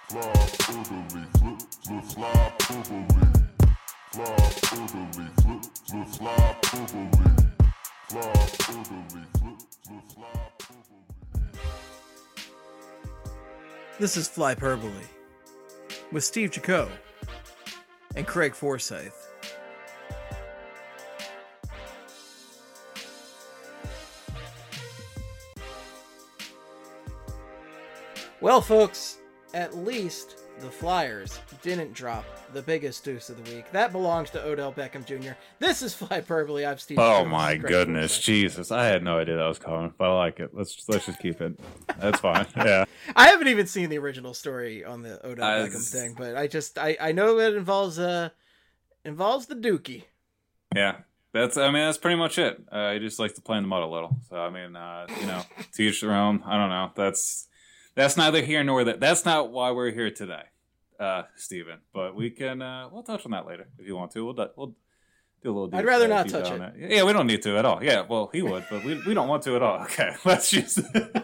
Fly orderly, flip, flip, fly orderly. Fly orderly, flip, flip, fly orderly. Fly orderly, flip, flip, fly orderly. This is Flyperbole with Steve Jaco and Craig Forsyth. Well, folks, at least the Flyers didn't drop the biggest deuce of the week. That belongs to Odell Beckham Jr. This is Flyperbole. I'm Steve. Oh Jaco. my goodness, Jesus! I had no idea that was coming, but I like it. Let's just keep it. That's fine. Yeah. I haven't even seen the original story on the Odell Beckham thing, but I know it involves the Dookie. Yeah. That's pretty much it. He just likes to play in the mud a little. So to each their own. I don't know. That's neither here nor there. That's not why we're here today, Steven. But we can we'll touch on that later if you want to. We'll do a little. I'd rather not touch it. That. Yeah, we don't need to at all. Yeah, well, he would, but we don't want to at all. Okay, let's just.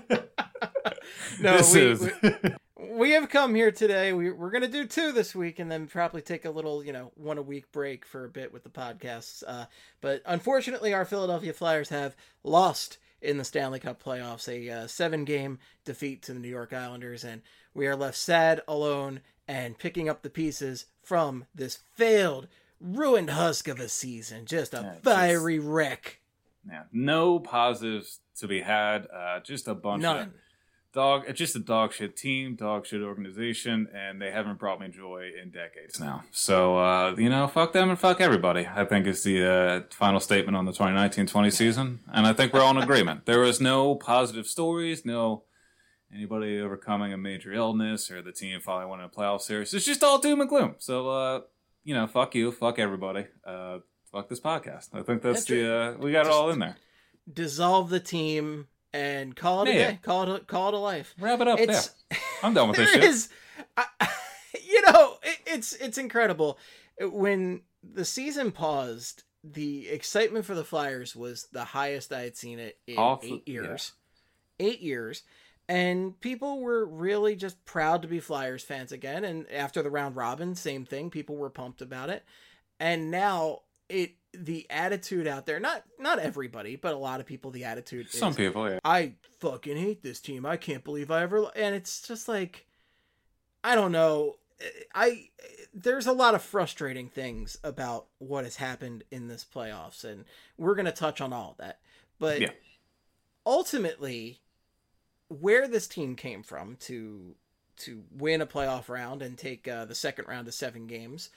We have come here today. We're going to do 2 this week and then probably take a little, 1 a week break for a bit with the podcasts. But unfortunately, our Philadelphia Flyers have lost in the Stanley Cup playoffs, a 7-game defeat to the New York Islanders. And we are left sad, alone, and picking up the pieces from this failed, ruined husk of a season. Just a fiery wreck. Yeah, no positives to be had. Just a bunch of just a dog shit team, dog shit organization, and they haven't brought me joy in decades now. So, fuck them and fuck everybody, I think is the final statement on the 2019-20 season. And I think we're all in agreement. There was no positive stories, no anybody overcoming a major illness or the team finally winning a playoff series. It's just all doom and gloom. So, fuck you, fuck everybody, fuck this podcast. I think that's we got it all in there. Dissolve the team and call it a day. Call it a life. Wrap it up. I'm done with this shit. It's incredible. When the season paused, the excitement for the Flyers was the highest I had seen it in 8 years. Yeah. 8 years. And people were really just proud to be Flyers fans again. And after the round robin, same thing. People were pumped about it. And now the attitude out there, not everybody, but a lot of people, the attitude is, some people, yeah, I fucking hate this team. I can't believe I ever, and it's just like, I don't know. There's a lot of frustrating things about what has happened in this playoffs, and we're going to touch on all of that. But ultimately, where this team came from to win a playoff round and take the second round of 7 games,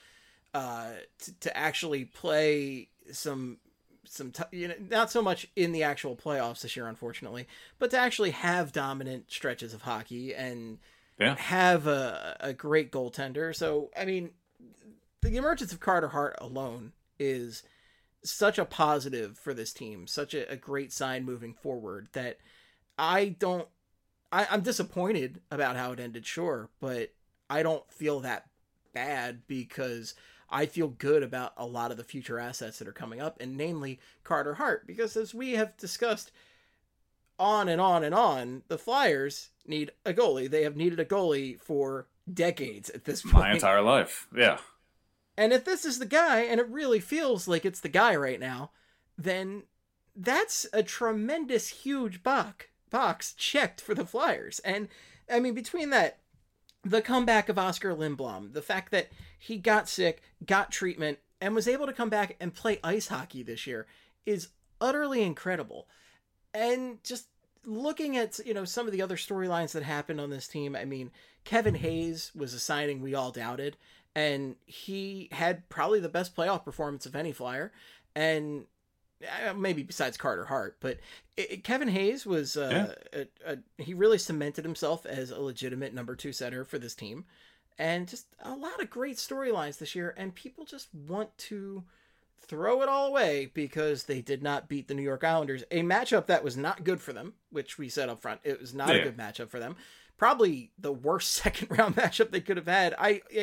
to actually play some not so much in the actual playoffs this year, unfortunately, but to actually have dominant stretches of hockey and have a great goaltender. So, the emergence of Carter Hart alone is such a positive for this team, such a great sign moving forward that I'm disappointed about how it ended, sure, but I don't feel that bad because I feel good about a lot of the future assets that are coming up, and namely Carter Hart, because as we have discussed on and on and on, the Flyers need a goalie. They have needed a goalie for decades at this point. My entire life, yeah. And if this is the guy, and it really feels like it's the guy right now, then that's a tremendous, huge box checked for the Flyers. And, between that, the comeback of Oscar Lindblom, the fact that he got sick, got treatment, and was able to come back and play ice hockey this year is utterly incredible. And just looking at, some of the other storylines that happened on this team, Kevin Hayes was a signing we all doubted, and he had probably the best playoff performance of any Flyer, and maybe besides Carter Hart, but Kevin Hayes was he really cemented himself as a legitimate number 2 center for this team, and just a lot of great storylines this year. And people just want to throw it all away because they did not beat the New York Islanders, a matchup that was not good for them, which we said up front. It was not a good matchup for them. Probably the worst second round matchup they could have had.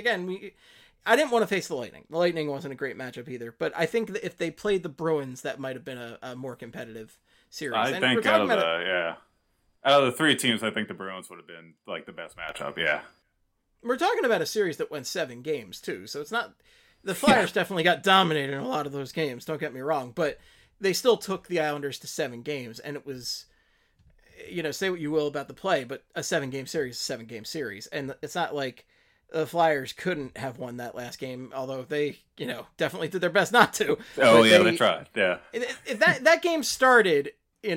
I didn't want to face the Lightning. The Lightning wasn't a great matchup either, but I think that if they played the Bruins, that might have been a more competitive series. I think out of the 3 teams, I think the Bruins would have been like the best matchup. Yeah. We're talking about a series that went 7 games too, so it's not. The Flyers definitely got dominated in a lot of those games. Don't get me wrong, but they still took the Islanders to 7 games, and it was, say what you will about the play, but a 7-game series is a 7-game series, and it's not like the Flyers couldn't have won that last game, although they, definitely did their best not to. Oh yeah, they tried. Yeah. If that game started,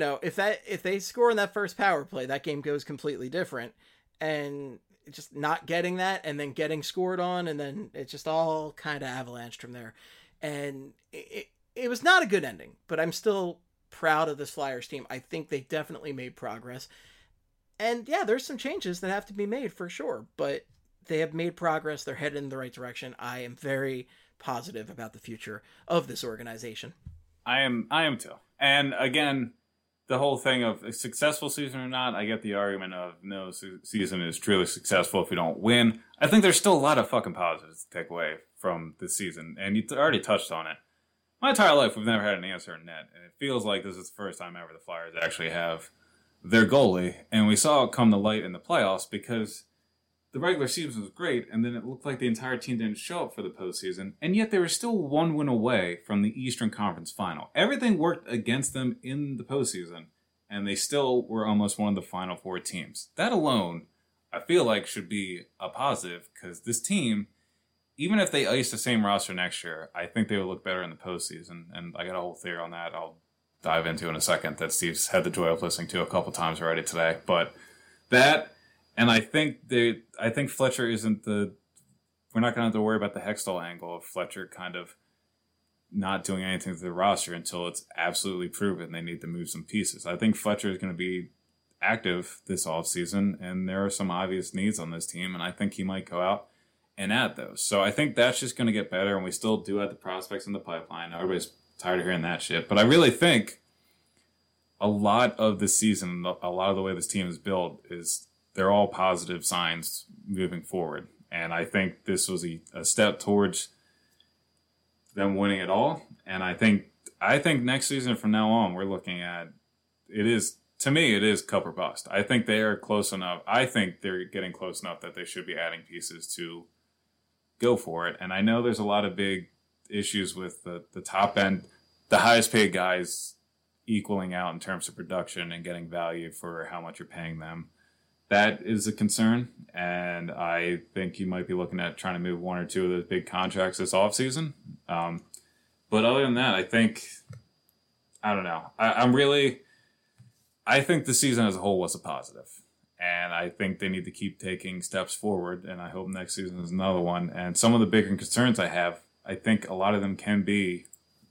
if they score in that first power play, that game goes completely different, and just not getting that and then getting scored on, and then it just all kind of avalanched from there. And it was not a good ending, but I'm still proud of this Flyers team. I think they definitely made progress. And yeah, there's some changes that have to be made for sure, but they have made progress. They're headed in the right direction. I am very positive about the future of this organization. I am too. And again, the whole thing of a successful season or not, I get the argument of no season is truly successful if you don't win. I think there's still a lot of fucking positives to take away from this season, and you already touched on it. My entire life, we've never had an answer in net, and it feels like this is the first time ever the Flyers actually have their goalie, and we saw it come to light in the playoffs because the regular season was great, and then it looked like the entire team didn't show up for the postseason, and yet they were still 1 win away from the Eastern Conference Final. Everything worked against them in the postseason, and they still were almost one of the Final 4 teams. That alone, I feel like, should be a positive, because this team, even if they ice the same roster next year, I think they will look better in the postseason, and I got a whole theory on that I'll dive into in a second that Steve's had the joy of listening to a couple times already today. But that... And I think Fletcher isn't we're not going to have to worry about the Hextall angle of Fletcher kind of not doing anything to the roster until it's absolutely proven they need to move some pieces. I think Fletcher is going to be active this offseason, and there are some obvious needs on this team, and I think he might go out and add those. So I think that's just going to get better, and we still do have the prospects in the pipeline. Everybody's tired of hearing that shit. But I really think a lot of the season, a lot of the way this team is built is they're all positive signs moving forward. And I think this was a step towards them winning it all. And I think next season from now on, we're looking at, to me, it is cup or bust. I think they are close enough. I think they're getting close enough that they should be adding pieces to go for it. And I know there's a lot of big issues with the top end, the highest paid guys equaling out in terms of production and getting value for how much you're paying them. That is a concern, and I think you might be looking at trying to move 1 or 2 of those big contracts this offseason. But other than that, I don't know. I think the season as a whole was a positive, and I think they need to keep taking steps forward, and I hope next season is another one. And some of the bigger concerns I have, I think a lot of them can be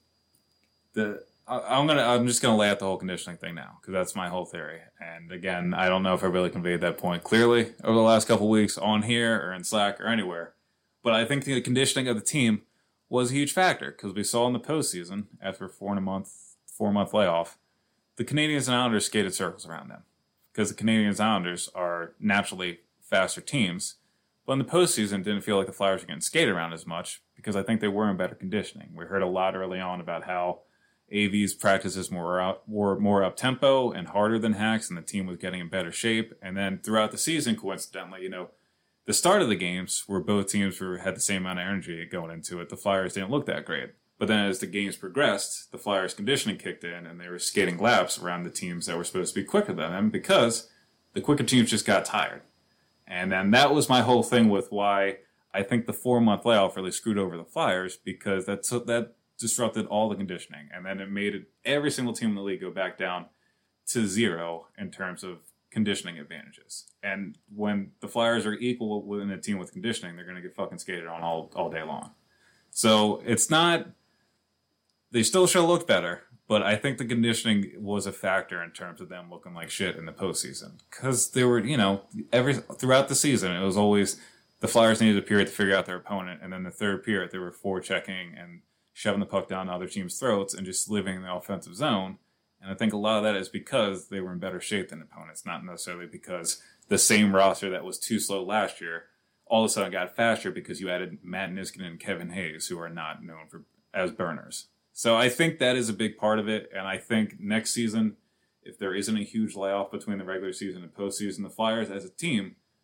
I'm just gonna lay out the whole conditioning thing now because that's my whole theory. And again, I don't know if I really conveyed that point clearly over the last couple of weeks on here or in Slack or anywhere, but I think the conditioning of the team was a huge factor because we saw in the postseason after a 4-month layoff, the Canadiens and Islanders skated circles around them because the Canadiens and Islanders are naturally faster teams. But in the postseason, didn't feel like the Flyers were getting skated around as much because I think they were in better conditioning. We heard a lot early on about how AV's practices were more up-tempo and harder than Hacks, and the team was getting in better shape. And then throughout the season, coincidentally, the start of the games where both teams had the same amount of energy going into it, the Flyers didn't look that great. But then as the games progressed, the Flyers' conditioning kicked in, and they were skating laps around the teams that were supposed to be quicker than them because the quicker teams just got tired. And then that was my whole thing with why I think the 4-month layoff really screwed over the Flyers because that disrupted all the conditioning, and then it made every single team in the league go back down to 0 in terms of conditioning advantages. And when the Flyers are equal within a team with conditioning, they're going to get fucking skated on all day long. So it's not... They still should have looked better, but I think the conditioning was a factor in terms of them looking like shit in the postseason. Because they were, throughout the season, it was always the Flyers needed a period to figure out their opponent, and then the third period, they were forechecking and shoving the puck down other teams' throats and just living in the offensive zone. And I think a lot of that is because they were in better shape than opponents, not necessarily because the same roster that was too slow last year all of a sudden got faster because you added Matt Niskanen and Kevin Hayes, who are not known as burners. So I think that is a big part of it. And I think next season, if there isn't a huge layoff between the regular season and postseason, the Flyers as a team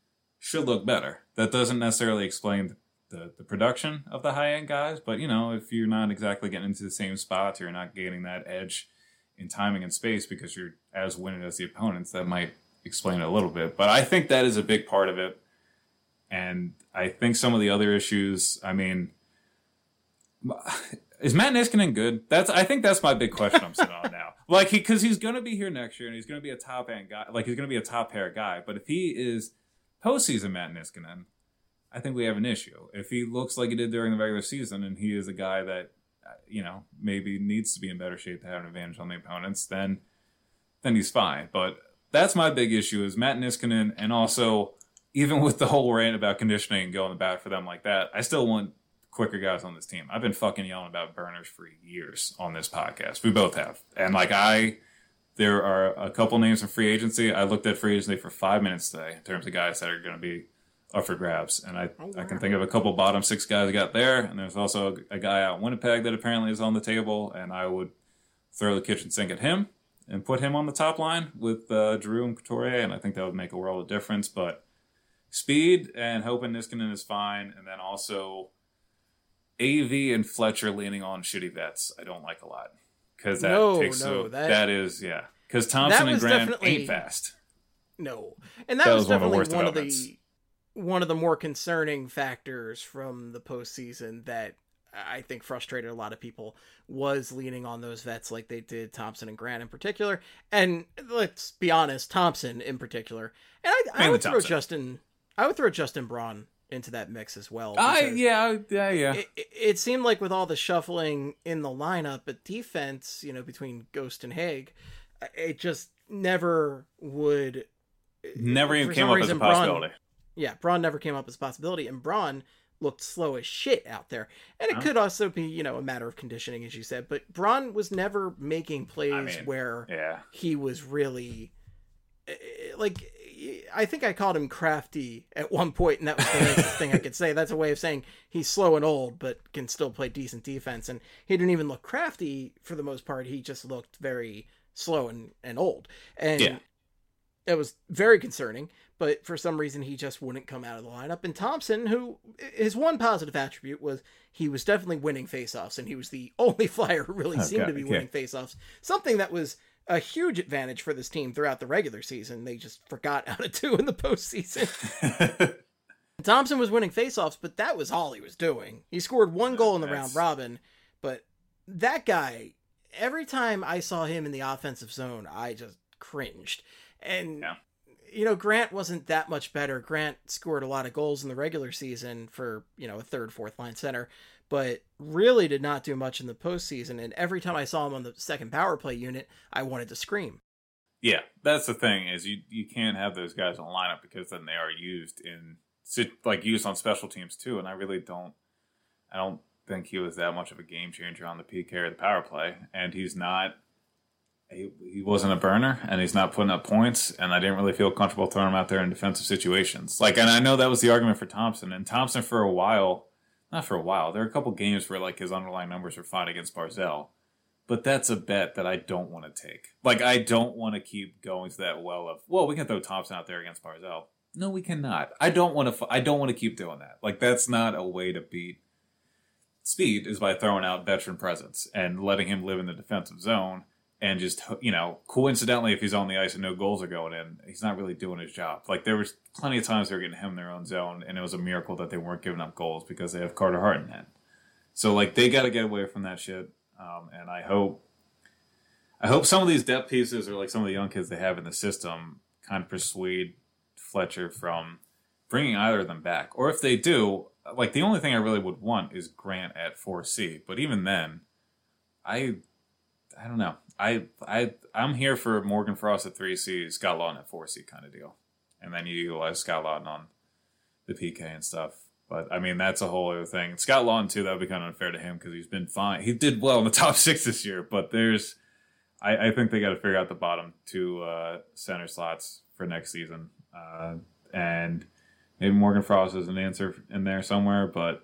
should look better. That doesn't necessarily explain the production of the high-end guys, but, if you're not exactly getting into the same spots, you're not gaining that edge in timing and space because you're as winning as the opponents, that might explain it a little bit. But I think that is a big part of it. And I think some of the other issues, I mean, is Matt Niskanen good? I think that's my big question I'm sitting on now. Like, because he's going to be here next year and he's going to be a top-end guy. Like, he's going to be a top-pair guy. But if he is postseason Matt Niskanen, I think we have an issue. If he looks like he did during the regular season and he is a guy that, maybe needs to be in better shape to have an advantage on the opponents, then he's fine. But that's my big issue is Matt Niskanen, and also even with the whole rant about conditioning and going to bat for them like that, I still want quicker guys on this team. I've been fucking yelling about burners for years on this podcast. We both have. And there are a couple names in free agency. I looked at free agency for 5 minutes today in terms of guys that are going to be up for grabs. And I can think of a couple bottom six guys got there. And there's also a guy out in Winnipeg that apparently is on the table. And I would throw the kitchen sink at him and put him on the top line with Drew and Couturier. And I think that would make a world of difference. But speed and hoping Niskanen is fine. And then also AV and Fletcher leaning on shitty vets, I don't like a lot. Because that is, yeah. Because Thompson and Grant ain't fast. No. And that was definitely one of the more concerning factors from the postseason that I think frustrated a lot of people was leaning on those vets like they did Thompson and Grant in particular. And let's be honest, Thompson in particular. And I would throw Justin Braun into that mix as well. Yeah. It seemed like with all the shuffling in the lineup at defense, between Ghost and Haig, it just never even came up as a possibility. Braun never came up as a possibility, and Braun looked slow as shit out there. And it could also be, a matter of conditioning, as you said, but Braun was never making plays where he was really I think I called him crafty at one point, and that was the nicest thing I could say. That's a way of saying he's slow and old, but can still play decent defense. And he didn't even look crafty for the most part. He just looked very slow and old. And it was very concerning, but for some reason he just wouldn't come out of the lineup. And Thompson, who his one positive attribute was he was definitely winning faceoffs, and he was the only Flyer who really seemed to be winning faceoffs. Something that was a huge advantage for this team throughout the regular season. They just forgot how to do in the postseason. Thompson was winning faceoffs, but that was all he was doing. He scored one goal in the round robin, but that guy, every time I saw him in the offensive zone, I just cringed. And, Grant wasn't that much better. Grant scored a lot of goals in the regular season for, a third, fourth line center, but really did not do much in the postseason. And every time I saw him on the second power play unit, I wanted to scream. Yeah, that's the thing is you can't have those guys on the lineup because then they are used used on special teams too. And I don't think he was that much of a game changer on the PK or the power play. And he's not. He wasn't a burner, and he's not putting up points, and I didn't really feel comfortable throwing him out there in defensive situations. And I know that was the argument for Thompson, and Thompson there were a couple games where, his underlying numbers were fine against Barzal, but that's a bet that I don't want to take. I don't want to keep going to that well of, we can throw Thompson out there against Barzal. No, we cannot. I don't want to keep doing that. That's not a way to beat speed, is by throwing out veteran presence and letting him live in the defensive zone. And just, coincidentally, if he's on the ice and no goals are going in, he's not really doing his job. There was plenty of times they were getting him in their own zone, and it was a miracle that they weren't giving up goals because they have Carter Hart in that. So, they got to get away from that shit. And I hope some of these depth pieces or, some of the young kids they have in the system kind of persuade Fletcher from bringing either of them back. Or if they do, the only thing I really would want is Grant at 4C. But even then, I don't know. I'm here for Morgan Frost at 3C, Scott Lawton at 4C kind of deal. And then you utilize Scott Lawton on the PK and stuff. But, that's a whole other thing. Scott Lawton, too, that would be kind of unfair to him because he's been fine. He did well in the top 6 this year, but I think they got to figure out the bottom 2 center slots for next season. And maybe Morgan Frost is an answer in there somewhere, but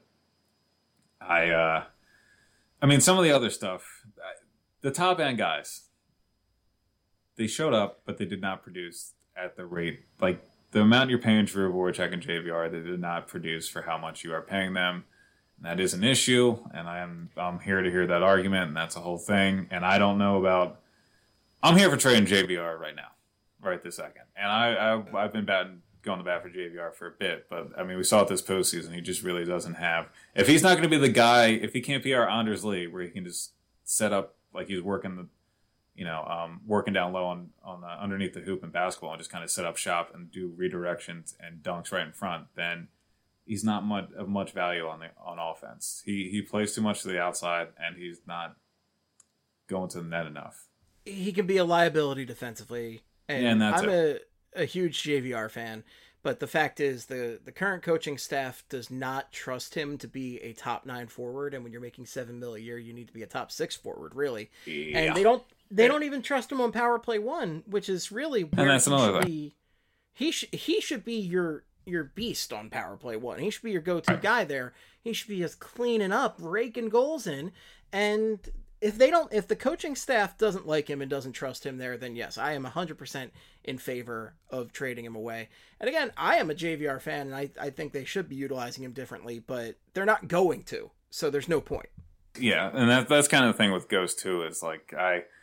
some of the other stuff... The top end guys, they showed up, but they did not produce at the rate. the amount you're paying Drew, Voracek, and JVR, they did not produce for how much you are paying them. And that is an issue, and I'm here to hear that argument, and that's a whole thing. And I don't know about. I'm here for trading JVR right now, right this second. And I've been going to bat for JVR for a bit, but I mean, we saw it this postseason. He just really doesn't have. If he's not going to be the guy, if he can't be our Anders Lee, where he can just set up like he's working the. Working down low on underneath the hoop in basketball and just kind of set up shop and do redirections and dunks right in front, then he's not of much value on offense. He plays too much to the outside and he's not going to the net enough. He can be a liability defensively, and I'm a huge JVR fan. But the fact is, the current coaching staff does not trust him to be a top 9 forward. And when you're making $7 million a year, you need to be a top 6 forward, really. Yeah. And they don't even trust him on power play 1, which is really where and that's another thing. He should be your beast on power play 1. He should be your go-to guy there. He should be just cleaning up, raking goals in. And if the coaching staff doesn't like him and doesn't trust him there, then yes, I am 100% in favor of trading him away. And again, I am a JVR fan, and I think they should be utilizing him differently, but they're not going to, so there's no point. Yeah, and that's kind of the thing with Ghost too. Is like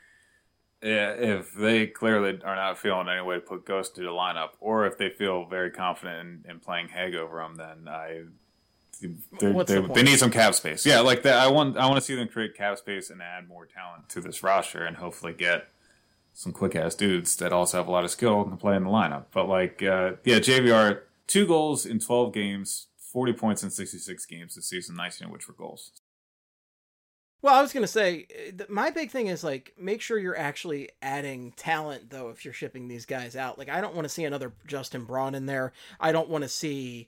if they clearly are not feeling any way to put Ghost to the lineup, or if they feel very confident in playing Haig over him, then they need some cap space. Yeah, like that. I want to see them create cap space and add more talent to this roster, and hopefully get some quick ass dudes that also have a lot of skill and can play in the lineup. But JVR 2 goals in 12 games, 40 points in 66 games this season, 19 of which were goals. Well, I was going to say, my big thing is, like, make sure you're actually adding talent, though, if you're shipping these guys out. Like, I don't want to see another Justin Braun in there. I don't want to see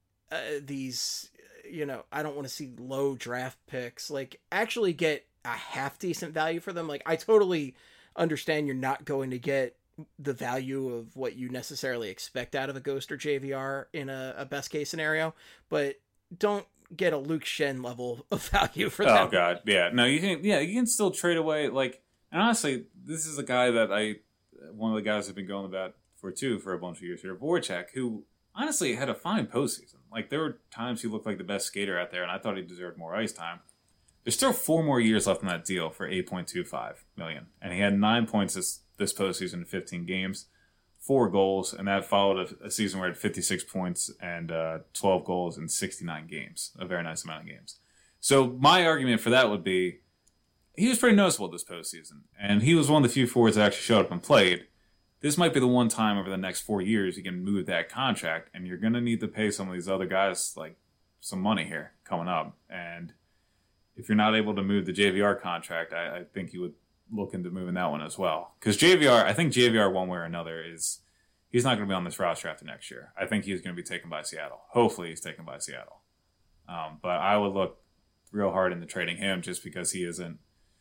these, I don't want to see low draft picks. Like, actually get a half-decent value for them. Like, I totally understand you're not going to get the value of what you necessarily expect out of a Ghost or JVR in a best-case scenario, but don't get a Luke Shen level of value for them. Oh god, yeah. No, you can still trade away, like, and honestly, this is a guy that one of the guys I've been going about for a bunch of years here, Voracek, who honestly had a fine postseason. Like, there were times he looked like the best skater out there, and I thought he deserved more ice time. There's still 4 more years left in that deal for $8.25 million, and he had 9 points this postseason in 15 games. 4 goals, and that followed a season where he had 56 points and 12 goals in 69 games. A very nice amount of games. So my argument for that would be he was pretty noticeable this postseason, and he was one of the few forwards that actually showed up and played. This might be the one time over the next 4 years you can move that contract, and you're going to need to pay some of these other guys like some money here coming up. And if you're not able to move the JVR contract, I think you would look into moving that one as well. Because I think JVR one way or another he's not going to be on this roster after next year. I think he's going to be taken by Seattle. Hopefully he's taken by Seattle. But I would look real hard into trading him just because he isn't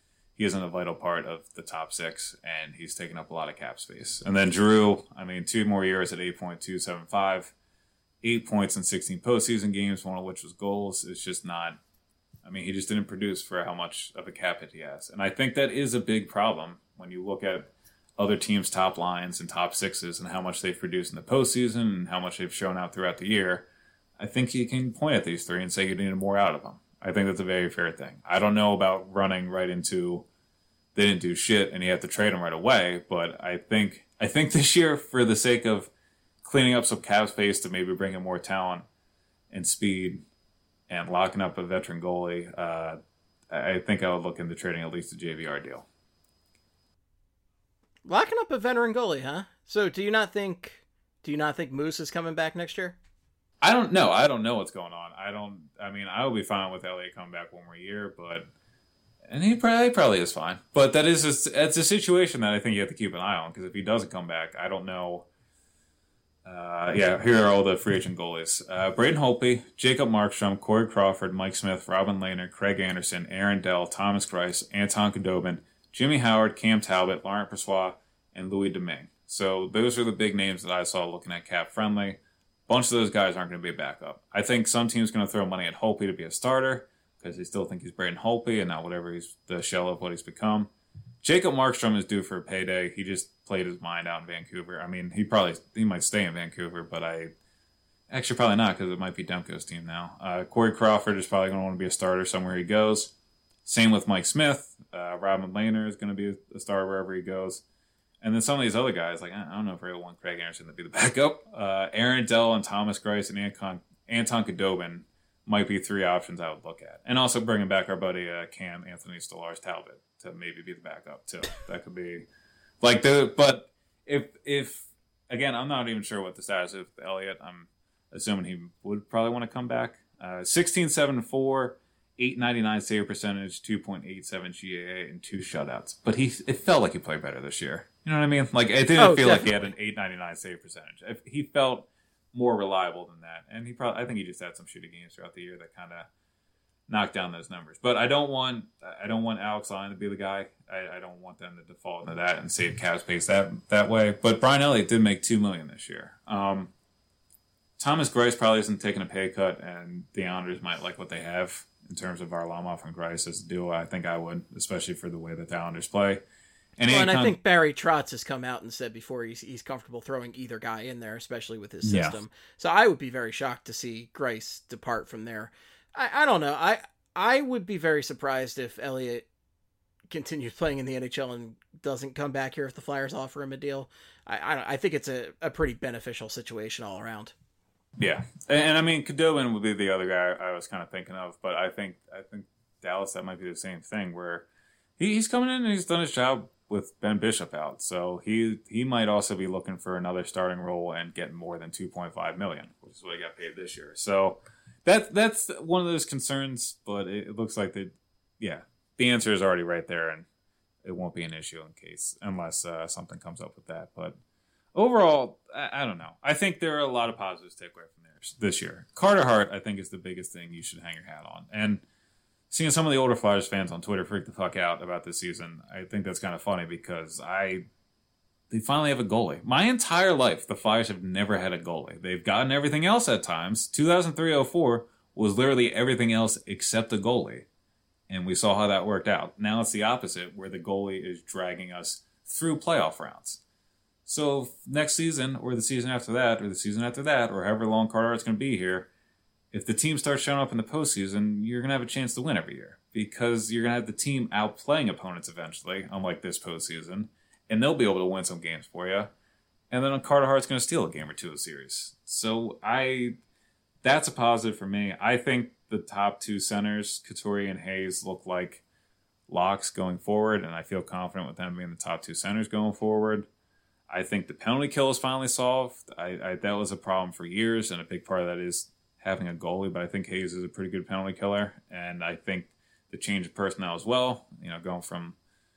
a vital part of the top 6 and he's taking up a lot of cap space. And then Drew, 2 more years at 8.275, 8 points in 16 postseason games, one of which was goals. It's just not. He just didn't produce for how much of a cap hit he has. And I think that is a big problem when you look at other teams' top lines and top 6s and how much they've produced in the postseason and how much they've shown out throughout the year. I think you can point at these 3 and say you needed more out of them. I think that's a very fair thing. I don't know about running right into they didn't do shit and you have to trade them right away, but I think this year, for the sake of cleaning up some cap space to maybe bring in more talent and speed and locking up a veteran goalie, I think I would look into trading at least a JVR deal. Locking up a veteran goalie, huh? So do you not think Moose is coming back next year? I don't know. I don't know what's going on. I would be fine with Elliott coming back one more year, and he probably is fine. But it's a situation that I think you have to keep an eye on, because if he doesn't come back, I don't know. Here are all the free agent goalies. Braden Holtby, Jacob Markstrom, Corey Crawford, Mike Smith, Robin Lehner, Craig Anderson, Aaron Dell, Thomas Greiss, Anton Khudobin, Jimmy Howard, Cam Talbot, Laurent Persois, and Louis Domingue. So those are the big names that I saw looking at cap friendly. A bunch of those guys aren't going to be a backup. I think some teams are going to throw money at Holtby to be a starter because they still think he's Braden Holtby and not whatever he's the shell of what he's become. Jacob Markstrom is due for a payday. He just played his mind out in Vancouver. I mean, he might stay in Vancouver, but actually probably not because it might be Demko's team now. Corey Crawford is probably going to want to be a starter somewhere he goes. Same with Mike Smith. Robin Lehner is going to be a starter wherever he goes. And then some of these other guys, like I don't know if I really want Craig Anderson to be the backup. Aaron Dell and Thomas Greiss and Anton Khudobin might be 3 options I would look at. And also bringing back our buddy Cam Anthony Stolarz Talbot to maybe be the backup too. That could be like but if again, I'm not even sure what the status is with Elliott. I'm assuming he would probably want to come back. 16-7-4, 899 save percentage, 2.87 GAA, and 2 shutouts. But it felt like he played better this year. You know what I mean? Like it didn't feel like he had an 899 save percentage. He felt more reliable than that, and I think he just had some shitty games throughout the year that kind of knocked down those numbers. But I don't want Alex Lyon to be the guy. I don't want them to default into that and save cap space that way. But Brian Elliott did make $2 million this year. Thomas Greiss probably isn't taking a pay cut, and the Islanders might like what they have in terms of Varlamov and Greiss as a duo. I think I would, especially for the way that the Islanders play. And I think Barry Trotz has come out and said before he's comfortable throwing either guy in there, especially with his system. Yeah. So I would be very shocked to see Greiss depart from there. I don't know. I would be very surprised if Elliott continues playing in the NHL and doesn't come back here if the Flyers offer him a deal. I think it's a pretty beneficial situation all around. Yeah, and I mean Khudobin would be the other guy I was kind of thinking of, but I think Dallas, that might be the same thing where he's coming in and he's done his job with Ben Bishop out, so he might also be looking for another starting role and getting more than $2.5 million, which is what he got paid this year. So that's one of those concerns, but it looks like the answer is already right there, and it won't be an issue unless something comes up with that. But overall, I don't know. I think there are a lot of positives to take away from this year. Carter Hart, I think, is the biggest thing you should hang your hat on, and seeing some of the older Flyers fans on Twitter freak the fuck out about this season, I think that's kind of funny because they finally have a goalie. My entire life, the Flyers have never had a goalie. They've gotten everything else at times. 2003-04 was literally everything else except a goalie. And we saw how that worked out. Now it's the opposite, where the goalie is dragging us through playoff rounds. So next season, or the season after that, or however long Carter Hart's going to be here, if the team starts showing up in the postseason, you're going to have a chance to win every year because you're going to have the team outplaying opponents eventually, unlike this postseason, and they'll be able to win some games for you. And then Carter Hart's going to steal a game or two of the series. So that's a positive for me. I think the top 2 centers, Couturier and Hayes, look like locks going forward, and I feel confident with them being the top 2 centers going forward. I think the penalty kill is finally solved. That was a problem for years, and a big part of that is having a goalie, but I think Hayes is a pretty good penalty killer, and I think the change of personnel as well, going from,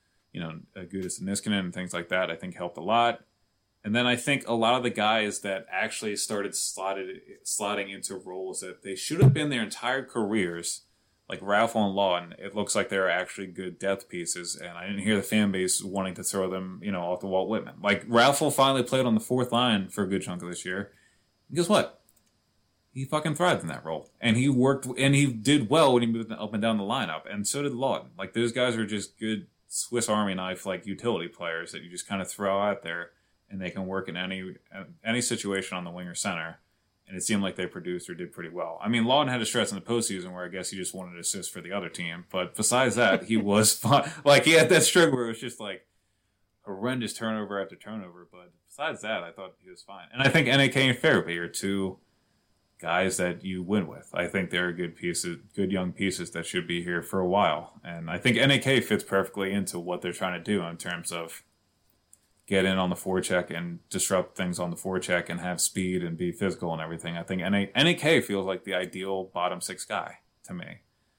Gudas to Niskanen and things like that, I think helped a lot. And then I think a lot of the guys that actually started slotting into roles that they should have been their entire careers, like Ralph and Lawton, it looks like they're actually good depth pieces, and I didn't hear the fan base wanting to throw them, off the Walt Whitman. Like, Ralph finally played on the 4th line for a good chunk of this year. And guess what? He fucking thrived in that role. And he worked, and he did well when he moved up and down the lineup. And so did Lawton. Like, those guys are just good Swiss Army knife, like, utility players that you just kind of throw out there, and they can work in any situation on the wing or center. And it seemed like they produced or did pretty well. I mean, Lawton had a stretch in the postseason where I guess he just wanted to assist for the other team. But besides that, he was fun. Like, he had that string where it was just, like, horrendous turnover after turnover. But besides that, I thought he was fine. And I think NAK and Farabee are 2 guys that you win with. I think they're good young pieces that should be here for a while. And I think NAK fits perfectly into what they're trying to do in terms of get in on the forecheck and disrupt things on the forecheck and have speed and be physical and everything. I think NAK feels like the ideal bottom 6 guy to me.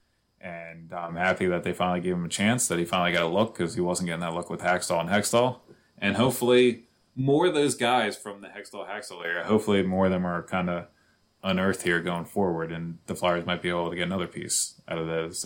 And I'm happy that they finally gave him a chance, that he finally got a look because he wasn't getting that look with Hextall. And hopefully more of those guys from the Hextall area, hopefully more of them are kind of unearthed here going forward, and the Flyers might be able to get another piece out of those,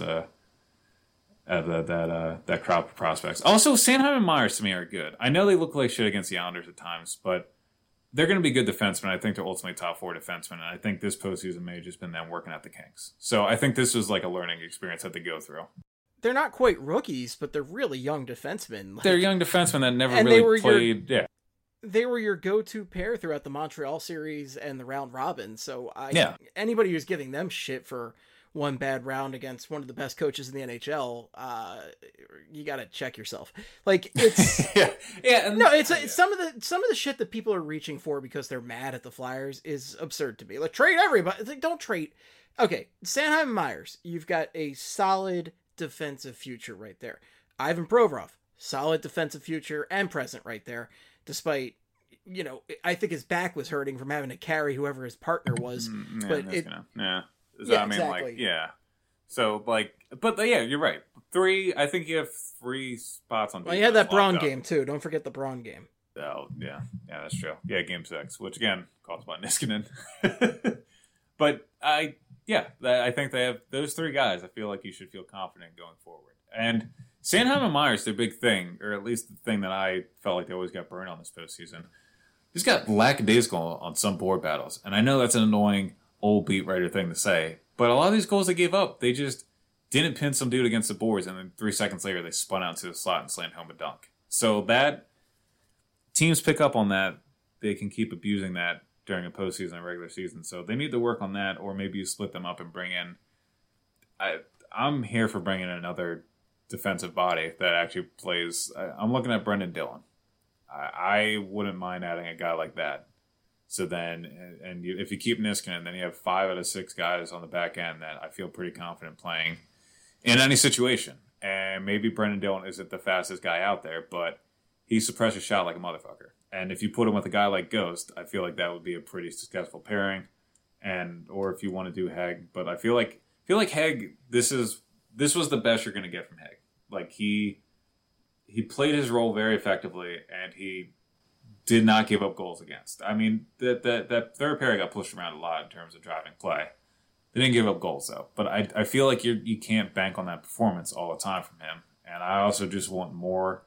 that crop of prospects. Also, Sanheim and Myers to me are good. I know they look like shit against the Islanders at times, but they're going to be good defensemen. I think they're ultimately top 4 defensemen, and I think this postseason may have just been them working at the kinks. So I think this was like a learning experience that they go through. they're not quite rookies, but they're really young defensemen. They're young defensemen that never really played. They were your go-to pair throughout the Montreal series and the round robin. So anybody who's giving them shit for one bad round against one of the best coaches in the NHL, you got to check yourself. Like it's it's some of the shit that people are reaching for because they're mad at the Flyers is absurd to me. Like trade everybody. It's like, don't trade. Okay, Sanheim and Myers, you've got a solid defensive future right there. Ivan Provorov, solid defensive future and present right there. Despite, I think his back was hurting from having to carry whoever his partner was. Exactly. So, but you're right. I think you have 3 spots on defense. Well, you had that Braun game, too. Don't forget the Braun game. Oh, yeah. Yeah, that's true. Yeah, game 6, which, again, caused by Niskanen. But, I think they have those 3 guys. I feel like you should feel confident going forward. And Sanheim and Myers, their big thing, or at least the thing that I felt like they always got burned on this postseason, just got lackadaisical on some board battles. And I know that's an annoying old beat writer thing to say, but a lot of these goals they gave up, they just didn't pin some dude against the boards, and then 3 seconds later they spun out to the slot and slammed home a dunk. So that teams pick up on that, they can keep abusing that during a postseason and regular season. So they need to work on that, or maybe you split them up and bring in. I'm here for bringing in another defensive body that actually plays. I'm looking at Brendan Dillon. I wouldn't mind adding a guy like that. So then, if you keep Niskanen, then you have 5 out of 6 guys on the back end that I feel pretty confident playing in any situation. And maybe Brendan Dillon isn't the fastest guy out there, but he suppresses shot like a motherfucker. And if you put him with a guy like Ghost, I feel like that would be a pretty successful pairing. Or if you want to do Hegg, but I feel like Hegg, this was the best you're going to get from Hegg. Like he played his role very effectively, and he did not give up goals against. I mean, that third pair got pushed around a lot in terms of driving play. They didn't give up goals though, but I feel like you can't bank on that performance all the time from him. And I also just want more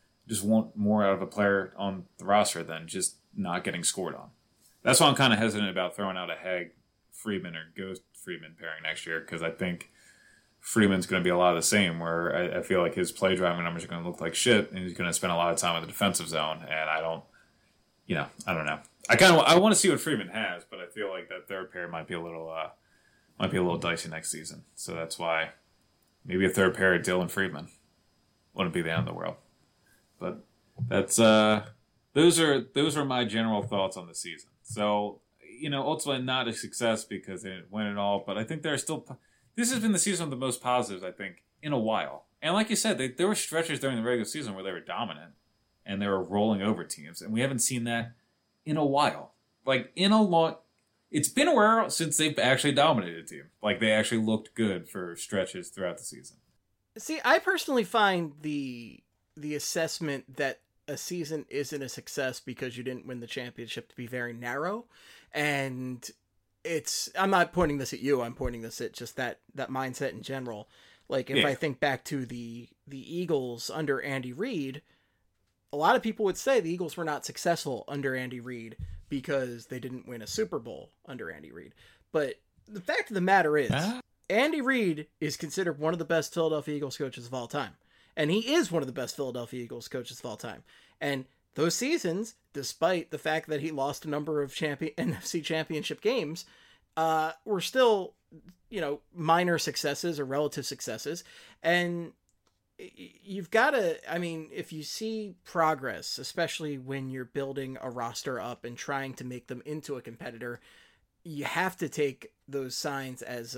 out of a player on the roster than just not getting scored on. That's why I'm kind of hesitant about throwing out a Hegg Friedman or Ghost Friedman pairing next year, because I think Friedman's going to be a lot of the same, where I feel like his play driving numbers are going to look like shit, and he's going to spend a lot of time in the defensive zone, and I don't know. I want to see what Friedman has, but I feel like that third pair might be a little dicey next season. So that's why maybe a third pair of Dillon Friedman wouldn't be the end of the world. But that's those are my general thoughts on the season. So, ultimately not a success because they didn't win it all, but I think this has been the season of the most positives, I think, in a while. And like you said, there were stretches during the regular season where they were dominant and they were rolling over teams, and we haven't seen that in a while. Like, it's been a while since they've actually dominated a team. Like, they actually looked good for stretches throughout the season. See, I personally find the assessment that a season isn't a success because you didn't win the championship to be very narrow. And I'm not pointing this at you, I'm pointing this at just that mindset in general. Like, if I think back to the Eagles under Andy Reid, a lot of people would say the Eagles were not successful under Andy Reid because they didn't win a Super Bowl under Andy Reid. But the fact of the matter is, Andy Reid is considered one of the best Philadelphia Eagles coaches of all time. And he is one of the best Philadelphia Eagles coaches of all time. And those seasons, despite the fact that he lost a number of NFC championship games, were still, minor successes or relative successes. And you've got to, if you see progress, especially when you're building a roster up and trying to make them into a competitor, you have to take those signs as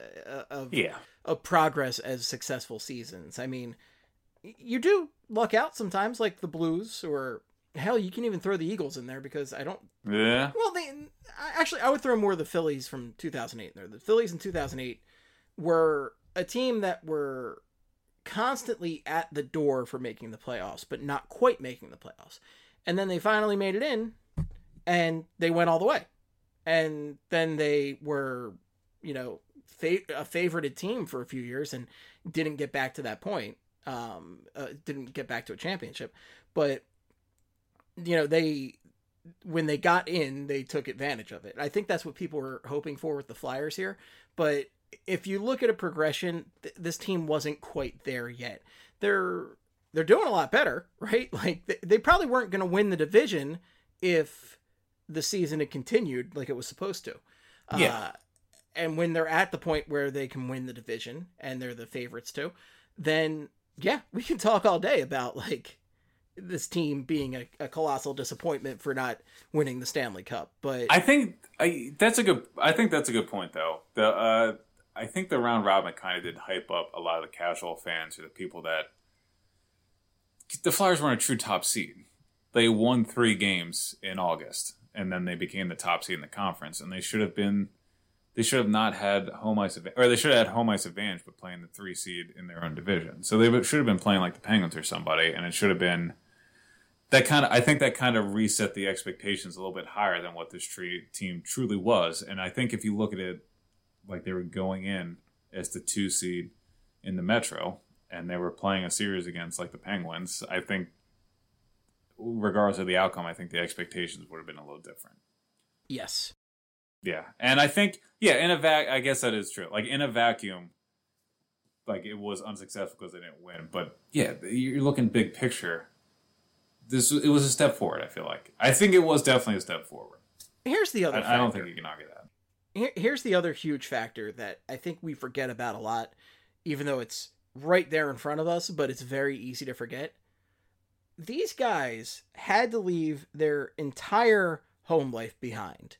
of progress as successful seasons. I mean, you do luck out sometimes, like the Blues, or hell, you can even throw the Eagles in there because I don't. Yeah. Well, I would throw more of the Phillies from 2008 in there. The Phillies in 2008 were a team that were constantly at the door for making the playoffs, but not quite making the playoffs. And then they finally made it in, and they went all the way. And then they were, a favorited team for a few years and didn't get back to that point. Didn't get back to a championship, but when they got in, they took advantage of it. I think that's what people were hoping for with the Flyers here, but if you look at a progression, this team wasn't quite there yet. They're doing a lot better, right? Like they probably weren't going to win the division if the season had continued like it was supposed to. Yeah. And when they're at the point where they can win the division and they're the favorites too, then yeah, we can talk all day about like this team being a colossal disappointment for not winning the Stanley Cup. But I think that's a good point though. I think the round robin kind of did hype up a lot of the casual fans or the people that the Flyers weren't a true top seed. They won 3 games in August, and then they became the top seed in the conference, and they should have not had home ice advantage, or they should have had home ice advantage, but playing the 3 seed in their own division. So they should have been playing like the Penguins or somebody, and it should have been I think that kind of reset the expectations a little bit higher than what this team truly was. And I think if you look at it like they were going in as the 2 seed in the Metro, and they were playing a series against like the Penguins, I think regardless of the outcome, I think the expectations would have been a little different. yes. Yeah. And I think, I guess that is true. Like in a vacuum, like it was unsuccessful because they didn't win. But yeah, you're looking big picture. It was a step forward, I feel like. I think it was definitely a step forward. Here's the other factor. I don't think you can argue that. Here's the other huge factor that I think we forget about a lot, even though it's right there in front of us, but it's very easy to forget. These guys had to leave their entire home life behind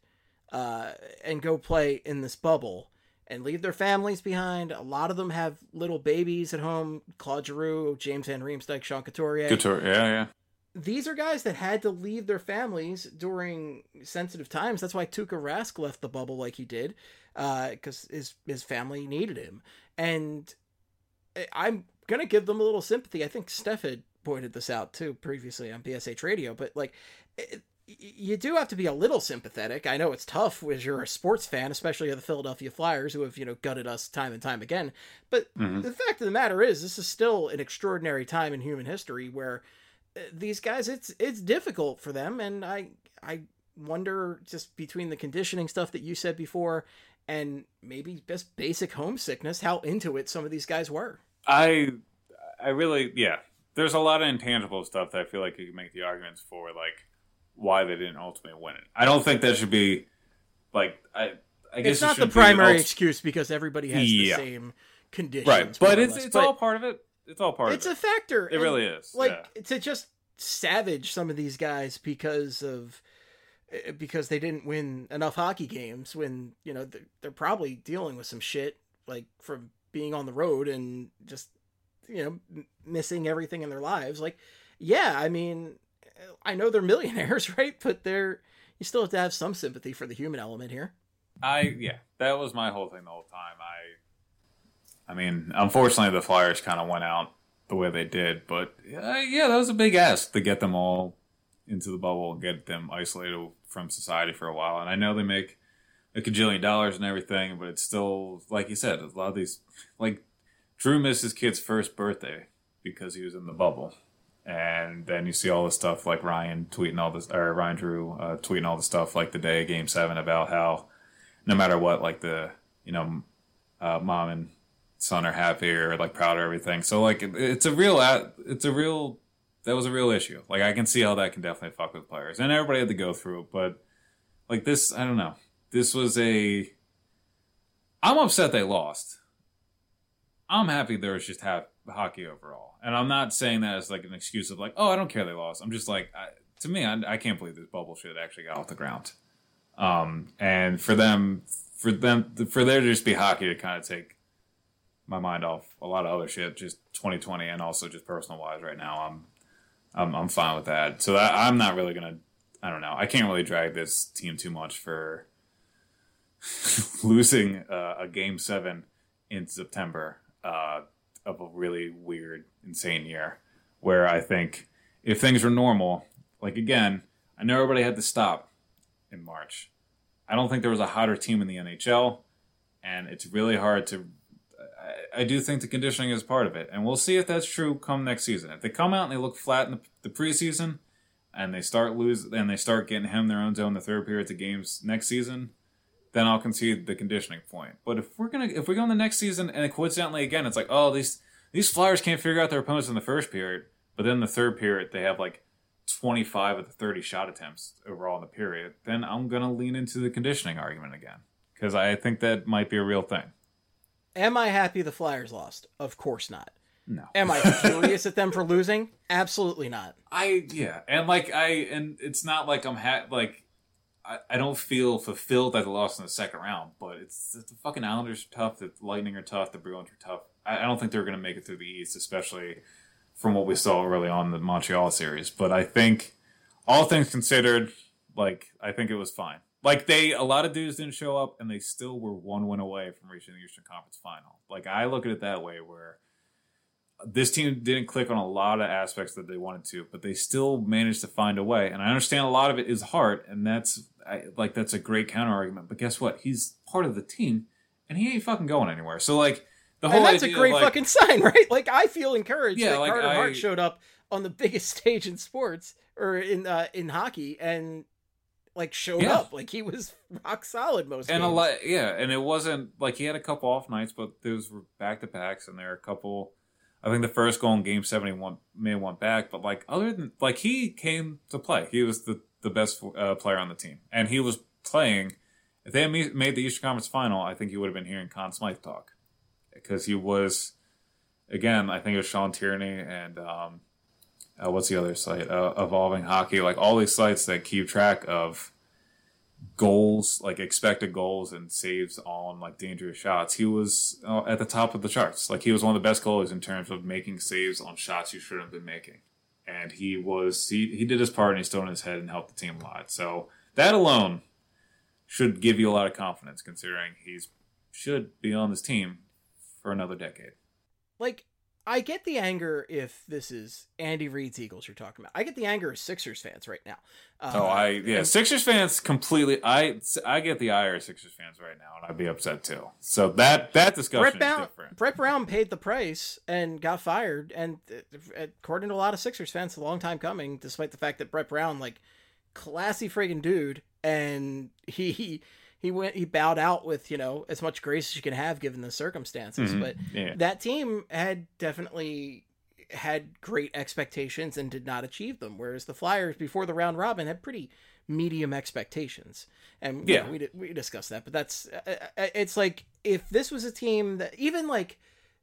and go play in this bubble and leave their families behind. A lot of them have little babies at home. Claude Giroux, James Van Riemsdyk, Sean Couturier. Yeah. These are guys that had to leave their families during sensitive times. That's why Tuukka Rask left the bubble like he did, because his family needed him. And I'm going to give them a little sympathy. I think Steph had pointed this out too previously on BSH Radio, but like you do have to be a little sympathetic. I know it's tough as you're a sports fan, especially of the Philadelphia Flyers, who have, gutted us time and time again. But the fact of the matter is, this is still an extraordinary time in human history where these guys, it's difficult for them. And I wonder, just between the conditioning stuff that you said before and maybe just basic homesickness, how into it some of these guys were. I really, there's a lot of intangible stuff that I feel like you can make the arguments for, like why they didn't ultimately win it. I don't think that should be like, I guess it's not the primary excuse because everybody has the same conditions. Right. But it's all part of it. It's all part of it. It's a factor. It really is. To just savage some of these guys because they didn't win enough hockey games when, they're probably dealing with some shit, like from being on the road and just, missing everything in their lives. Like, yeah, I mean, I know they're millionaires, right? But you still have to have some sympathy for the human element here. That was my whole thing the whole time. I mean, unfortunately, the Flyers kind of went out the way they did, but that was a big ask to get them all into the bubble and get them isolated from society for a while. And I know they make a gajillion dollars and everything, but it's still, like you said, a lot of these, like Drew missed his kid's first birthday because he was in the bubble. And then you see all this stuff like Ryan Drew tweeting all the stuff like the day of Game 7 about how no matter what, like the, mom and son are happy or like proud of everything. So like that was a real issue. Like I can see how that can definitely fuck with players, and everybody had to go through it. But like this, I don't know. This was I'm upset they lost. I'm happy there was just hockey overall, and I'm not saying that as like an excuse of like, oh, I don't care they lost. I'm just like, to me, I can't believe this bubble shit actually got off the ground. And for there to just be hockey to kind of take my mind off a lot of other shit, just 2020 and also just personal wise right now, I'm fine with that. So I'm not really gonna, I don't know, I can't really drag this team too much for losing a Game 7 in September of a really weird, insane year where I think if things were normal, like again, I know everybody had to stop in March. I don't think there was a hotter team in the NHL, and it's really hard to. I do think the conditioning is part of it, and we'll see if that's true come next season. If they come out and they look flat in the preseason, and they start getting hemmed their own zone the third period of games next season, then I'll concede the conditioning point. But if we go in the next season and coincidentally again, it's like, oh, these Flyers can't figure out their opponents in the first period, but then the third period they have like 25 of the 30 shot attempts overall in the period, then I'm gonna lean into the conditioning argument again because I think that might be a real thing. Am I happy the Flyers lost? Of course not. No. Am I furious at them for losing? Absolutely not. And it's not like I don't feel fulfilled that they lost in the second round, but it's the fucking Islanders are tough, the Lightning are tough, the Bruins are tough. I don't think they're going to make it through the East, especially from what we saw early on in the Montreal series. But I think, all things considered, like, I think it was fine. Like, a lot of dudes didn't show up, and they still were one win away from reaching the Eastern Conference Final. Like, I look at it that way, where this team didn't click on a lot of aspects that they wanted to, but they still managed to find a way. And I understand a lot of it is heart, and that's a great counter argument. But guess what? He's part of the team, and he ain't fucking going anywhere. So, like, the whole and that's idea a great of, like, fucking sign, right? Like, I feel encouraged that like, Carter Hart showed up on the biggest stage in sports, or in hockey, and like showed up. Like, he was rock solid most games. And it wasn't like he had a couple off nights, but those were back-to-backs, and there are a couple. I think the first goal in Game 7 may have went back, but like other than like he came to play. He was the best player on the team, and he was playing. If they had made the Eastern Conference Final, I think you would have been hearing Conn Smythe talk because he was. Again, I think it was Sean Tierney and what's the other site? Evolving Hockey, like all these sites that keep track of goals, like expected goals and saves on like dangerous shots. He was at the top of the charts. Like he was one of the best goalies in terms of making saves on shots you shouldn't have been making. And he did his part and he stood on his head and helped the team a lot. So that alone should give you a lot of confidence considering should be on this team for another decade. Like, I get the anger if this is Andy Reid's Eagles you're talking about. I get the anger as Sixers fans right now. Sixers fans completely. I get the ire of Sixers fans right now, and I'd be upset too. So that discussion is different. Brett Brown paid the price and got fired, and according to a lot of Sixers fans, it's a long time coming. Despite the fact that Brett Brown, like, classy friggin' dude, and he bowed out with, as much grace as you can have given the circumstances. Mm-hmm. But that team had definitely had great expectations and did not achieve them. Whereas the Flyers before the round robin had pretty medium expectations. And we discussed that, but that's, it's like, if this was a team that even like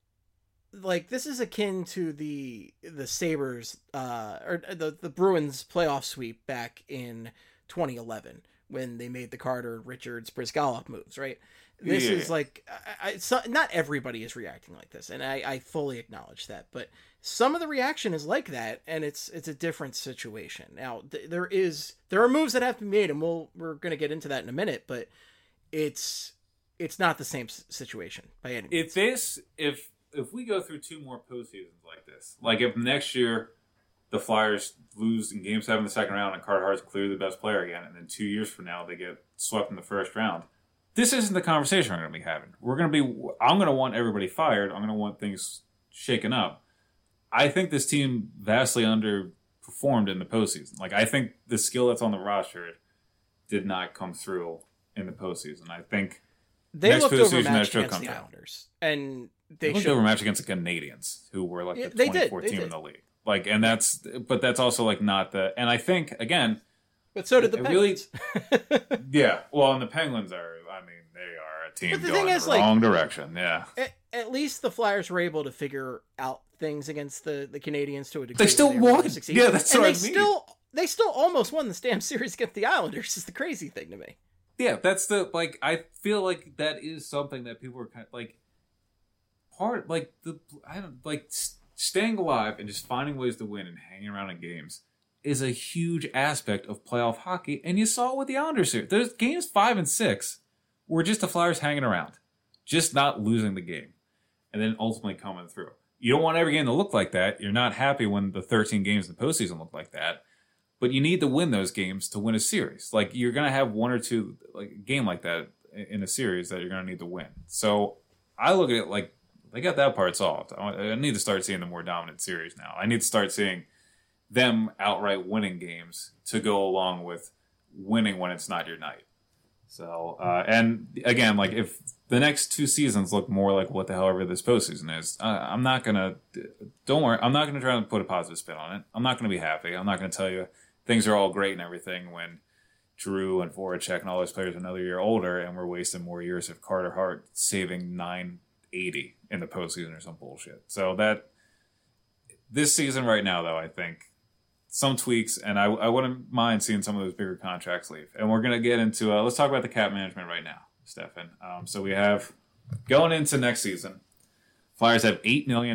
this is akin to the Sabres, or the Bruins playoff sweep back in 2011. When they made the Carter, Richards, Brizgalov moves, right? This is like, not everybody is reacting like this, and I fully acknowledge that, but some of the reaction is like that, and it's a different situation. Now, there are moves that have to be made, and we're going to get into that in a minute, but it's not the same situation by any means. If we go through two more postseasons like this, like if next year the Flyers lose in Game 7 in the second round and Carter Hart's clearly the best player again, and then 2 years from now they get swept in the first round. This isn't the conversation we're going to be having. I'm going to want everybody fired. I'm going to want things shaken up. I think this team vastly underperformed in the postseason. Like, I think the skill that's on the roster did not come through in the postseason. I think they looked overmatched against the Islanders. And they looked overmatched against the Canadiens, who were like the 24th team in the league. Like, and that's also like not the, and I think again, but so did the Penguins. Really, well, and the Penguins they are a team going in the wrong direction. Yeah. At least the Flyers were able to figure out things against the Canadiens to a degree. They still won. Yeah, that's what I mean. They still almost won the damn series against the Islanders. Is the crazy thing to me. Yeah, that's I feel like that is something that people are kind of like staying alive and just finding ways to win and hanging around in games is a huge aspect of playoff hockey. And you saw it with the Islanders here. There's games 5 and 6 were just the Flyers hanging around, just not losing the game, and then ultimately coming through. You don't want every game to look like that. You're not happy when the 13 games in the postseason look like that, but you need to win those games to win a series. Like, you're going to have one or two, like a game like that in a series that you're going to need to win. So I look at it like, they got that part solved. I need to start seeing the more dominant series now. I need to start seeing them outright winning games to go along with winning when it's not your night. So, and again, like if the next 2 seasons look more like what the hell ever this postseason is, I'm not gonna. Don't worry, I'm not gonna try to put a positive spin on it. I'm not gonna be happy. I'm not gonna tell you things are all great and everything when Drew and Voracek and all those players are another year older, and we're wasting more years of Carter Hart saving 980 in the postseason or some bullshit. So that this season right now, though, I think some tweaks, and I wouldn't mind seeing some of those bigger contracts leave. And we're going to get into, let's talk about the cap management right now, Stefan. So we have, going into next season, Flyers have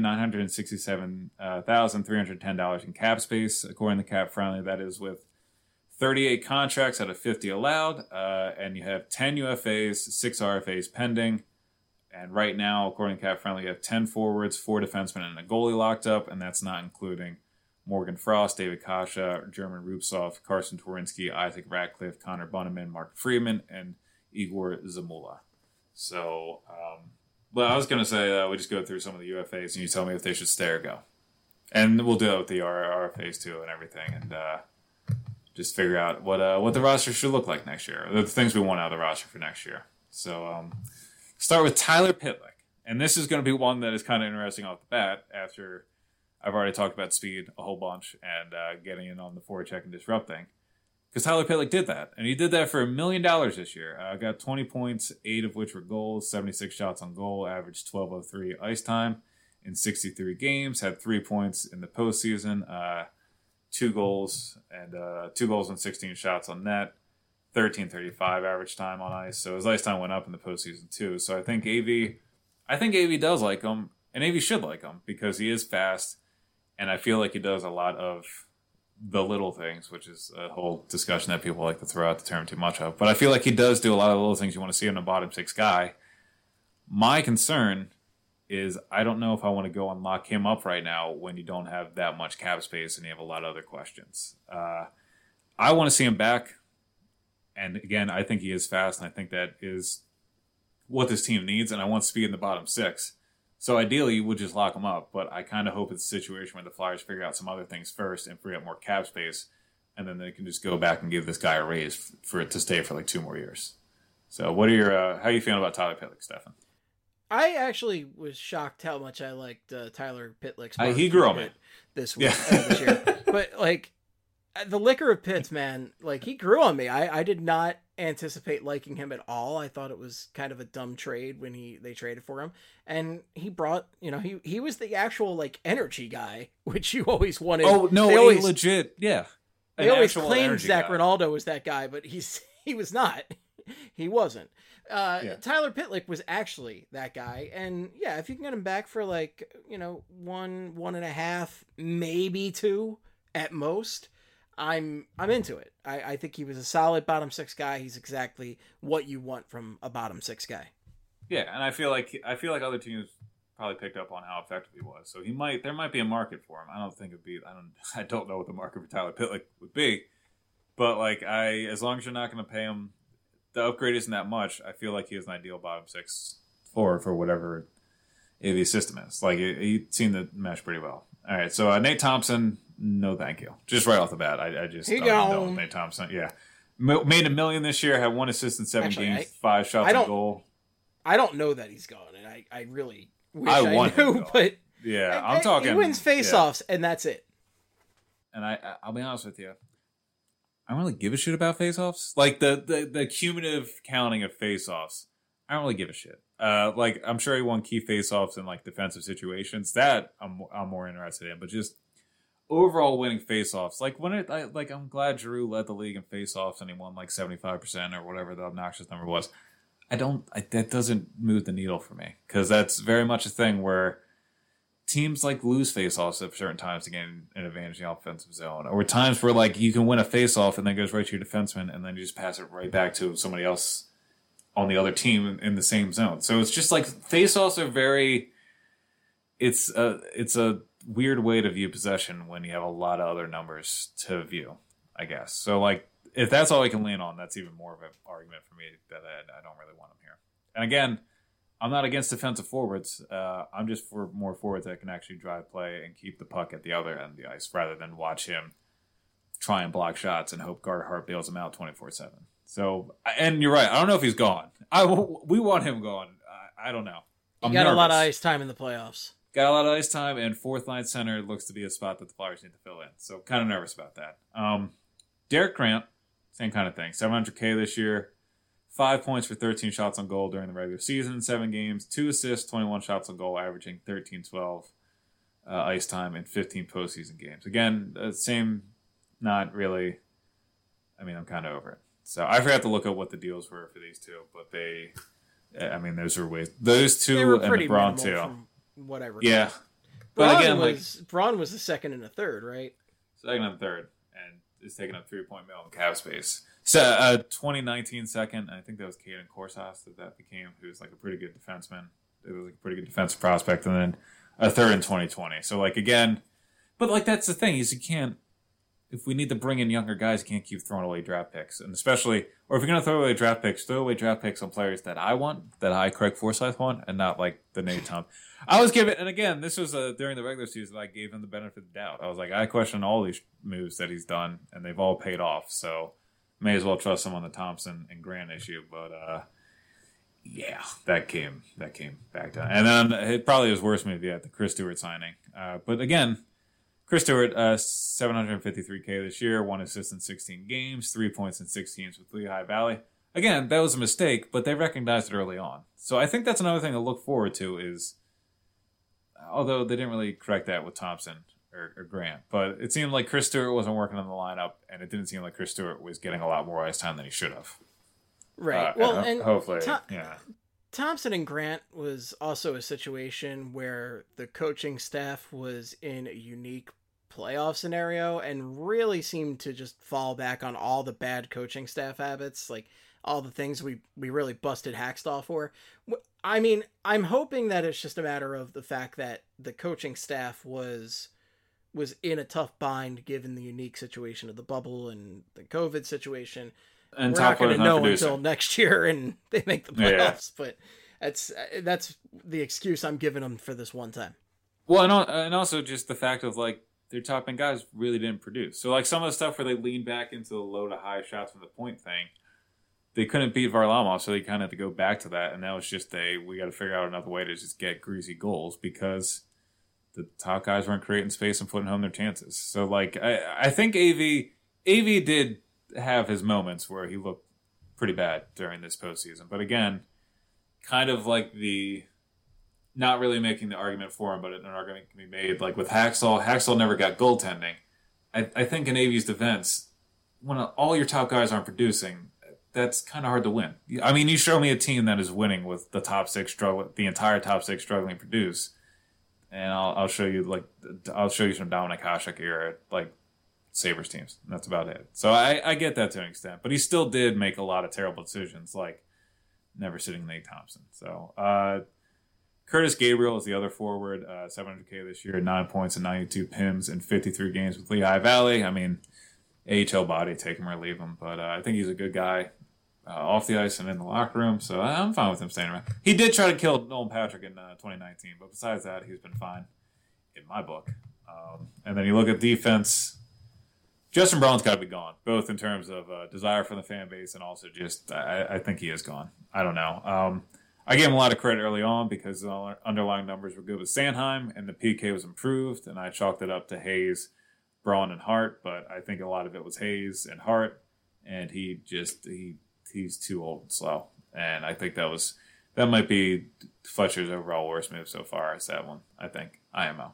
$8,967,310 in cap space, according to Cap Friendly. That is with 38 contracts out of 50 allowed, and you have 10 UFAs, 6 RFAs pending. And right now, according to Cap Friendly, you have 10 forwards, 4 defensemen, and a goalie locked up, and that's not including Morgan Frost, David Kasha, German Rubtsov, Carson Twarynski, Isaac Ratcliffe, Connor Bunneman, Mark Freeman, and Igor Zamula. So, well, I was going to say we just go through some of the UFAs, and you tell me if they should stay or go. And we'll do it with the RFAs too and everything, and just figure out what the roster should look like next year, the things we want out of the roster for next year. So, start with Tyler Pitlick. And this is going to be one that is kind of interesting off the bat after I've already talked about speed a whole bunch and getting in on the forecheck and disrupting. Because Tyler Pitlick did that. And he did that for $1 million this year. Got 20 points, 8 of which were goals, 76 shots on goal, averaged 12:03 ice time in 63 games, had 3 points in the postseason, 2 goals and 16 shots on net, 13:35 average time on ice. So his ice time went up in the postseason too. So I think AV does like him, and AV should like him because he is fast. And I feel like he does a lot of the little things, which is a whole discussion that people like to throw out the term too much of. But I feel like he does do a lot of the little things you want to see in a bottom 6 guy. My concern is I don't know if I want to go and lock him up right now when you don't have that much cap space and you have a lot of other questions. I want to see him back. And again, I think he is fast, and I think that is what this team needs. And I want speed in the bottom 6. So ideally, you would just lock him up, but I kind of hope it's a situation where the Flyers figure out some other things first and free up more cap space, and then they can just go back and give this guy a raise for it to stay for like 2 more years. So, what are your how are you feeling about Tyler Pitlick, Stefan? I actually was shocked how much I liked Tyler Pitlick's. He grew on me this week, this year, but like the liquor of Pitts, man, like he grew on me. I did not anticipate liking him at all. I thought it was kind of a dumb trade when they traded for him, and he brought, he was the actual like energy guy, which you always wanted. Oh no, they always legit, yeah. They always claimed Zach Ronaldo was that guy, but he was not. He wasn't. Tyler Pitlick was actually that guy, and yeah, if you can get him back for like 1.5, maybe 2 at most, I'm into it. I think he was a solid bottom 6 guy. He's exactly what you want from a bottom 6 guy. Yeah, and I feel like other teams probably picked up on how effective he was. So there might be a market for him. I don't know what the market for Tyler Pitlick would be, but like as long as you're not going to pay him, the upgrade isn't that much. I feel like he is an ideal bottom 6 for whatever AV system is. Like he seemed to mesh pretty well. All right, so Nate Thompson, no thank you. Just right off the bat, I just don't know Nate Thompson. Yeah, made $1 million this year, had 1 assist in 7 games, 5 shots on goal. I don't know that he's gone, and I really wish I knew, but yeah, I'm talking. He wins faceoffs, and that's it. And I'll be honest with you, I don't really give a shit about faceoffs. Like the cumulative counting of faceoffs, I don't really give a shit. Like I'm sure he won key faceoffs in like defensive situations that I'm more interested in, but just overall winning faceoffs. Like I'm glad Giroux led the league in faceoffs and he won like 75% or whatever the obnoxious number was. That doesn't move the needle for me because that's very much a thing where teams like lose faceoffs at certain times to gain an advantage in the offensive zone, or times where like you can win a faceoff and then it goes right to your defenseman and then you just pass it right back to somebody else on the other team in the same zone. So it's just like faceoffs are it's a weird way to view possession when you have a lot of other numbers to view, I guess. So like if that's all I can lean on, that's even more of an argument for me that I don't really want him here. And again, I'm not against defensive forwards. I'm just for more forwards that can actually drive play and keep the puck at the other end of the ice rather than watch him try and block shots and hope Carter Hart bails him out 24/7. So, and you're right. I don't know if he's gone. We want him gone. I don't know. He got a lot of ice time in the playoffs. Got a lot of ice time, and fourth line center looks to be a spot that the Flyers need to fill in. So, kind of nervous about that. Derek Grant, same kind of thing. $700K this year. 5 points for 13 shots on goal during the regular season, 7 games, 2 assists, 21 shots on goal, averaging 13-12 ice time in 15 postseason games. Again, same, not really. I mean, I'm kind of over it. So I forgot to look at what the deals were for these two, but those were ways. Those two and Braun too. From whatever. Yeah. But again, Braun was the second and a third, right? Second and third, and is taking up 3 point mil in cap space. So 2019 second, I think that was Caden Korsas that became, who was like a pretty good defenseman. It was like a pretty good defensive prospect, and then a third in 2020. So like again, but like that's the thing is you can't. If we need to bring in younger guys, you can't keep throwing away draft picks, and especially, or if you're gonna throw away draft picks on players that I want, that I, Craig Forsyth, want, and not like the Nate Tom. I was giving, and again, this was during the regular season. I gave him the benefit of the doubt. I was like, I question all these moves that he's done, and they've all paid off. So may as well trust him on the Thompson and Grant issue. But yeah, that came back down, and then it probably was worse maybe at the Chris Stewart signing. But again. Chris Stewart, $753K this year, 1 assist in 16 games, 3 points in 6 games with Lehigh Valley. Again, that was a mistake, but they recognized it early on. So I think that's another thing to look forward to is, although they didn't really correct that with Thompson or Grant, but it seemed like Chris Stewart wasn't working on the lineup, and it didn't seem like Chris Stewart was getting a lot more ice time than he should have. Right. And hopefully, yeah. Thompson and Grant was also a situation where the coaching staff was in a unique playoff scenario and really seemed to just fall back on all the bad coaching staff habits, like all the things we really busted Hackstall for. I mean, I'm hoping that it's just a matter of the fact that the coaching staff was in a tough bind given the unique situation of the bubble and the COVID situation. And we're not going to know until next year and they make the playoffs, but that's the excuse I'm giving them for this one time. Well, and also just the fact of like their top end guys really didn't produce. So like some of the stuff where they leaned back into the low to high shots from the point thing, they couldn't beat Varlamov, so they kind of had to go back to that. And now it's just we got to figure out another way to just get greasy goals because the top guys weren't creating space and putting home their chances. So like I think AV did have his moments where he looked pretty bad during this postseason. But again, kind of like not really making the argument for him, but an argument can be made. Like with Hackstall never got goaltending. I think in AV's defense, when all your top guys aren't producing, that's kind of hard to win. I mean, you show me a team that is winning with the top six the entire top six struggling to produce, and I'll show you some Dominic Hasek era like Sabres teams. And that's about it. So I get that to an extent, but he still did make a lot of terrible decisions, like never sitting Nate Thompson. So Curtis Gabriel is the other forward, $700K this year, 9 points and 92 PIMs in 53 games with Lehigh Valley. I mean, AHL body, take him or leave him, but I think he's a good guy off the ice and in the locker room, so I'm fine with him staying around. He did try to kill Nolan Patrick in 2019, but besides that, he's been fine in my book. And then you look at defense, Justin Braun's got to be gone, both in terms of desire for the fan base and also just I think he is gone. I don't know. I gave him a lot of credit early on because the underlying numbers were good with Sanheim and the PK was improved, and I chalked it up to Hayes, Braun, and Hart, but I think a lot of it was Hayes and Hart, and he's too old and slow. And I think that might be Fletcher's overall worst move so far is that one, I think. IMO.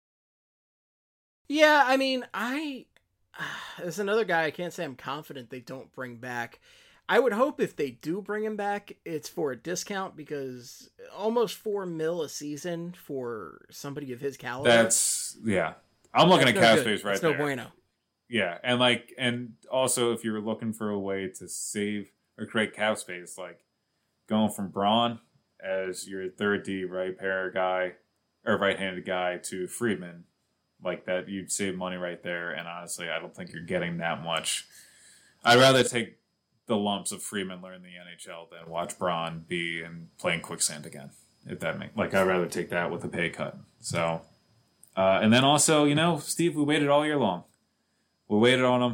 Yeah, I mean, there's another guy I can't say I'm confident they don't bring back. I would hope if they do bring him back, it's for a discount because almost $4 million a season for somebody of his caliber. I'm looking at cap space right there. No bueno. Yeah, and also if you're looking for a way to save or create cap space, like going from Braun as your third D right-handed guy to Friedman, like that, you'd save money right there. And honestly, I don't think you're getting that much. I'd rather take the lumps of Freeman learn the NHL than watch Braun be and playing quicksand again. If that makes I'd rather take that with a pay cut. So, and then also, Steve, we waited all year long. We waited on him,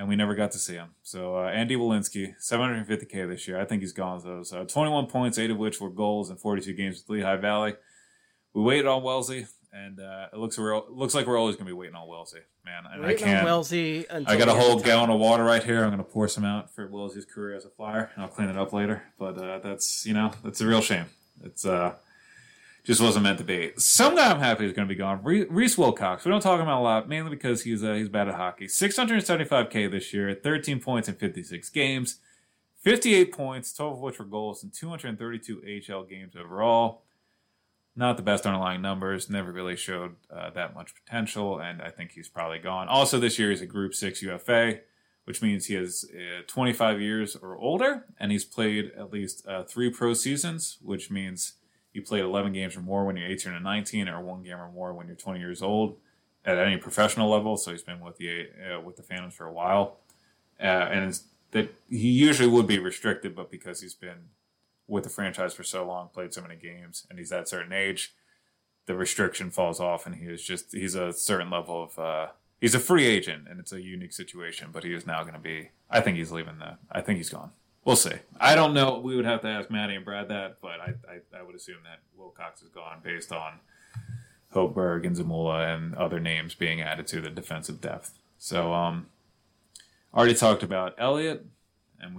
and we never got to see him. So Andy Walensky, $750K this year. I think he's gone with those. 21 points, 8 of which were goals in 42 games with Lehigh Valley. We waited on Wellesley, and it looks like we're always going to be waiting on Wellesley, man. And waiting on Wellesley until I got a whole gallon of water right here. I'm going to pour some out for Wellesley's career as a Flyer, and I'll clean it up later. But that's a real shame. It's just wasn't meant to be. Some guy I'm happy is going to be gone. Reese Wilcox. We don't talk about him a lot, mainly because he's bad at hockey. $675K this year, 13 points in 56 games, 58 points, 12 of which were goals, and 232 AHL games overall. Not the best underlying numbers. Never really showed that much potential, and I think he's probably gone. Also, this year he's a Group 6 UFA, which means he is 25 years or older, and he's played at least 3 pro seasons, which means you played 11 games or more when you're 18 or 19, or 1 game or more when you're 20 years old at any professional level. So he's been with the Phantoms for a while, and that he usually would be restricted, but because he's been with the franchise for so long, played so many games, and he's at a certain age, the restriction falls off, and he's a certain level of he's a free agent, and it's a unique situation. But he is now going to be. I think he's leaving. I think he's gone. We'll see. I don't know. We would have to ask Maddie and Brad that, but I would assume that Wilcox is gone based on Hopeberg and Zamula and other names being added to the defensive depth. So, already talked about Elliott, and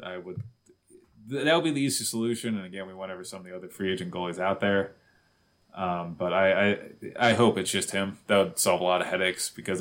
that would be the easy solution. And again, we went over some of the other free agent goalies out there. But I hope it's just him. That would solve a lot of headaches, because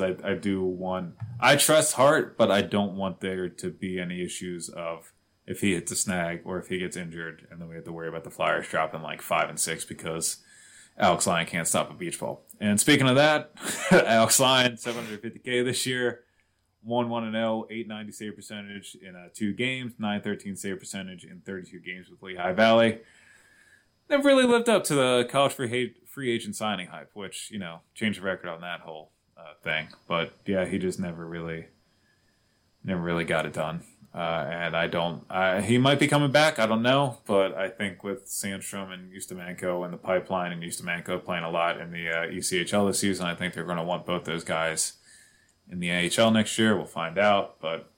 I trust Hart, but I don't want there to be any issues of if he hits a snag or if he gets injured, and then we have to worry about the Flyers dropping like 5 and 6 because Alex Lyon can't stop a beach ball. And speaking of that, Alex Lyon, $750K this year, 1-1-0, .890 save percentage in 2 games, .913 save percentage in 32 games with Lehigh Valley. Never really lived up to the college free agent signing hype, which, changed the record on that whole thing. But yeah, he just never really got it done. And he might be coming back. I don't know, but I think with Sandstrom and Ustimenko and the pipeline, and Ustimenko playing a lot in the ECHL this season, I think they're going to want both those guys in the AHL next year. We'll find out, but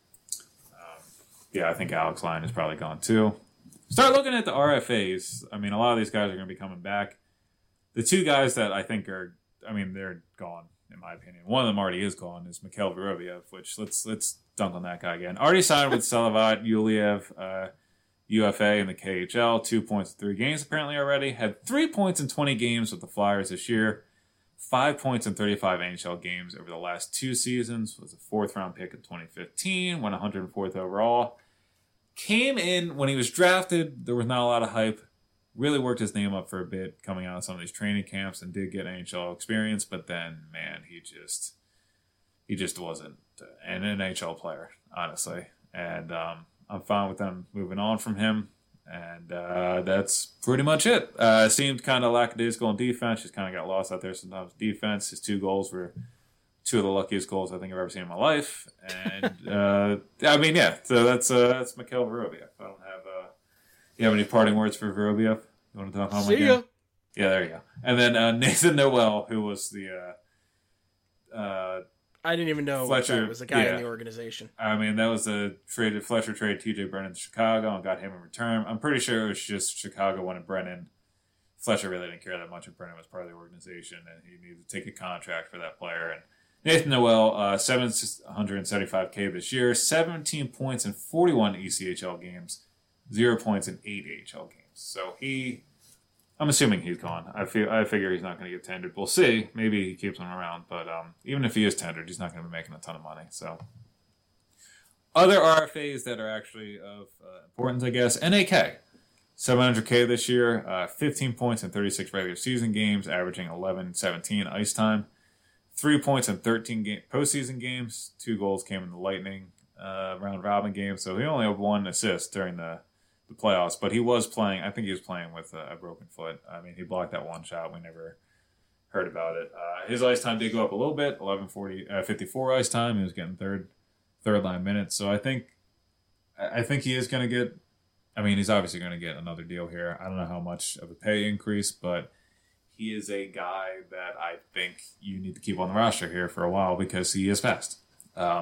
I think Alex Lyon is probably gone too. Start looking at the RFAs. I mean, a lot of these guys are going to be coming back. The 2 guys that I think they're gone, in my opinion. One of them already is gone, is Mikhail Vorobiev, which let's dunk on that guy again. Already signed with Salavat Yuliyev, UFA in the KHL, 2 points in 3 games apparently already. Had 3 points in 20 games with the Flyers this year. 5 points in 35 NHL games over the last 2 seasons. Was a 4th-round pick in 2015. Went 104th overall. Came in when he was drafted. There was not a lot of hype. Really worked his name up for a bit coming out of some of these training camps and did get NHL experience. But then, man, he just wasn't an NHL player, honestly. And I'm fine with them moving on from him. And that's pretty much it. Seemed kind of lackadaisical in defense. Just kind of got lost out there sometimes. Defense, his 2 goals were 2 of the luckiest goals I think I've ever seen in my life. And, so that's Mikhail Vorobiev. I don't have, you have any parting words for Vorobiev? You want to talk home again? See ya. Yeah, there you go. And then Nathan Noel, who was the... I didn't even know Fletcher was a guy in the organization. I mean, that was Fletcher traded TJ Brennan to Chicago and got him in return. I'm pretty sure it was just Chicago wanted Brennan. Fletcher really didn't care that much if Brennan was part of the organization, and he needed to take a contract for that player. And Nathan Noel, $775K this year, 17 points in 41 ECHL games, 0 points in 8 AHL games. So I'm assuming he's gone. I figure he's not going to get tendered. We'll see. Maybe he keeps him around, but even if he is tendered, he's not going to be making a ton of money. So other RFAs that are actually of importance, I guess. NAK, $700K this year, 15 points in 36 regular season games, averaging 11-17 ice time. 3 points in 13 postseason games. 2 goals came in the Lightning round robin game. So he only had 1 assist during the playoffs. But he was playing. I think he was playing with a broken foot. I mean, he blocked that 1 shot. We never heard about it. His ice time did go up a little bit. 54 ice time. He was getting third line minutes. So I think he is going to get. I mean, he's obviously going to get another deal here. I don't know how much of a pay increase, but he is a guy that I think you need to keep on the roster here for a while because he is fast.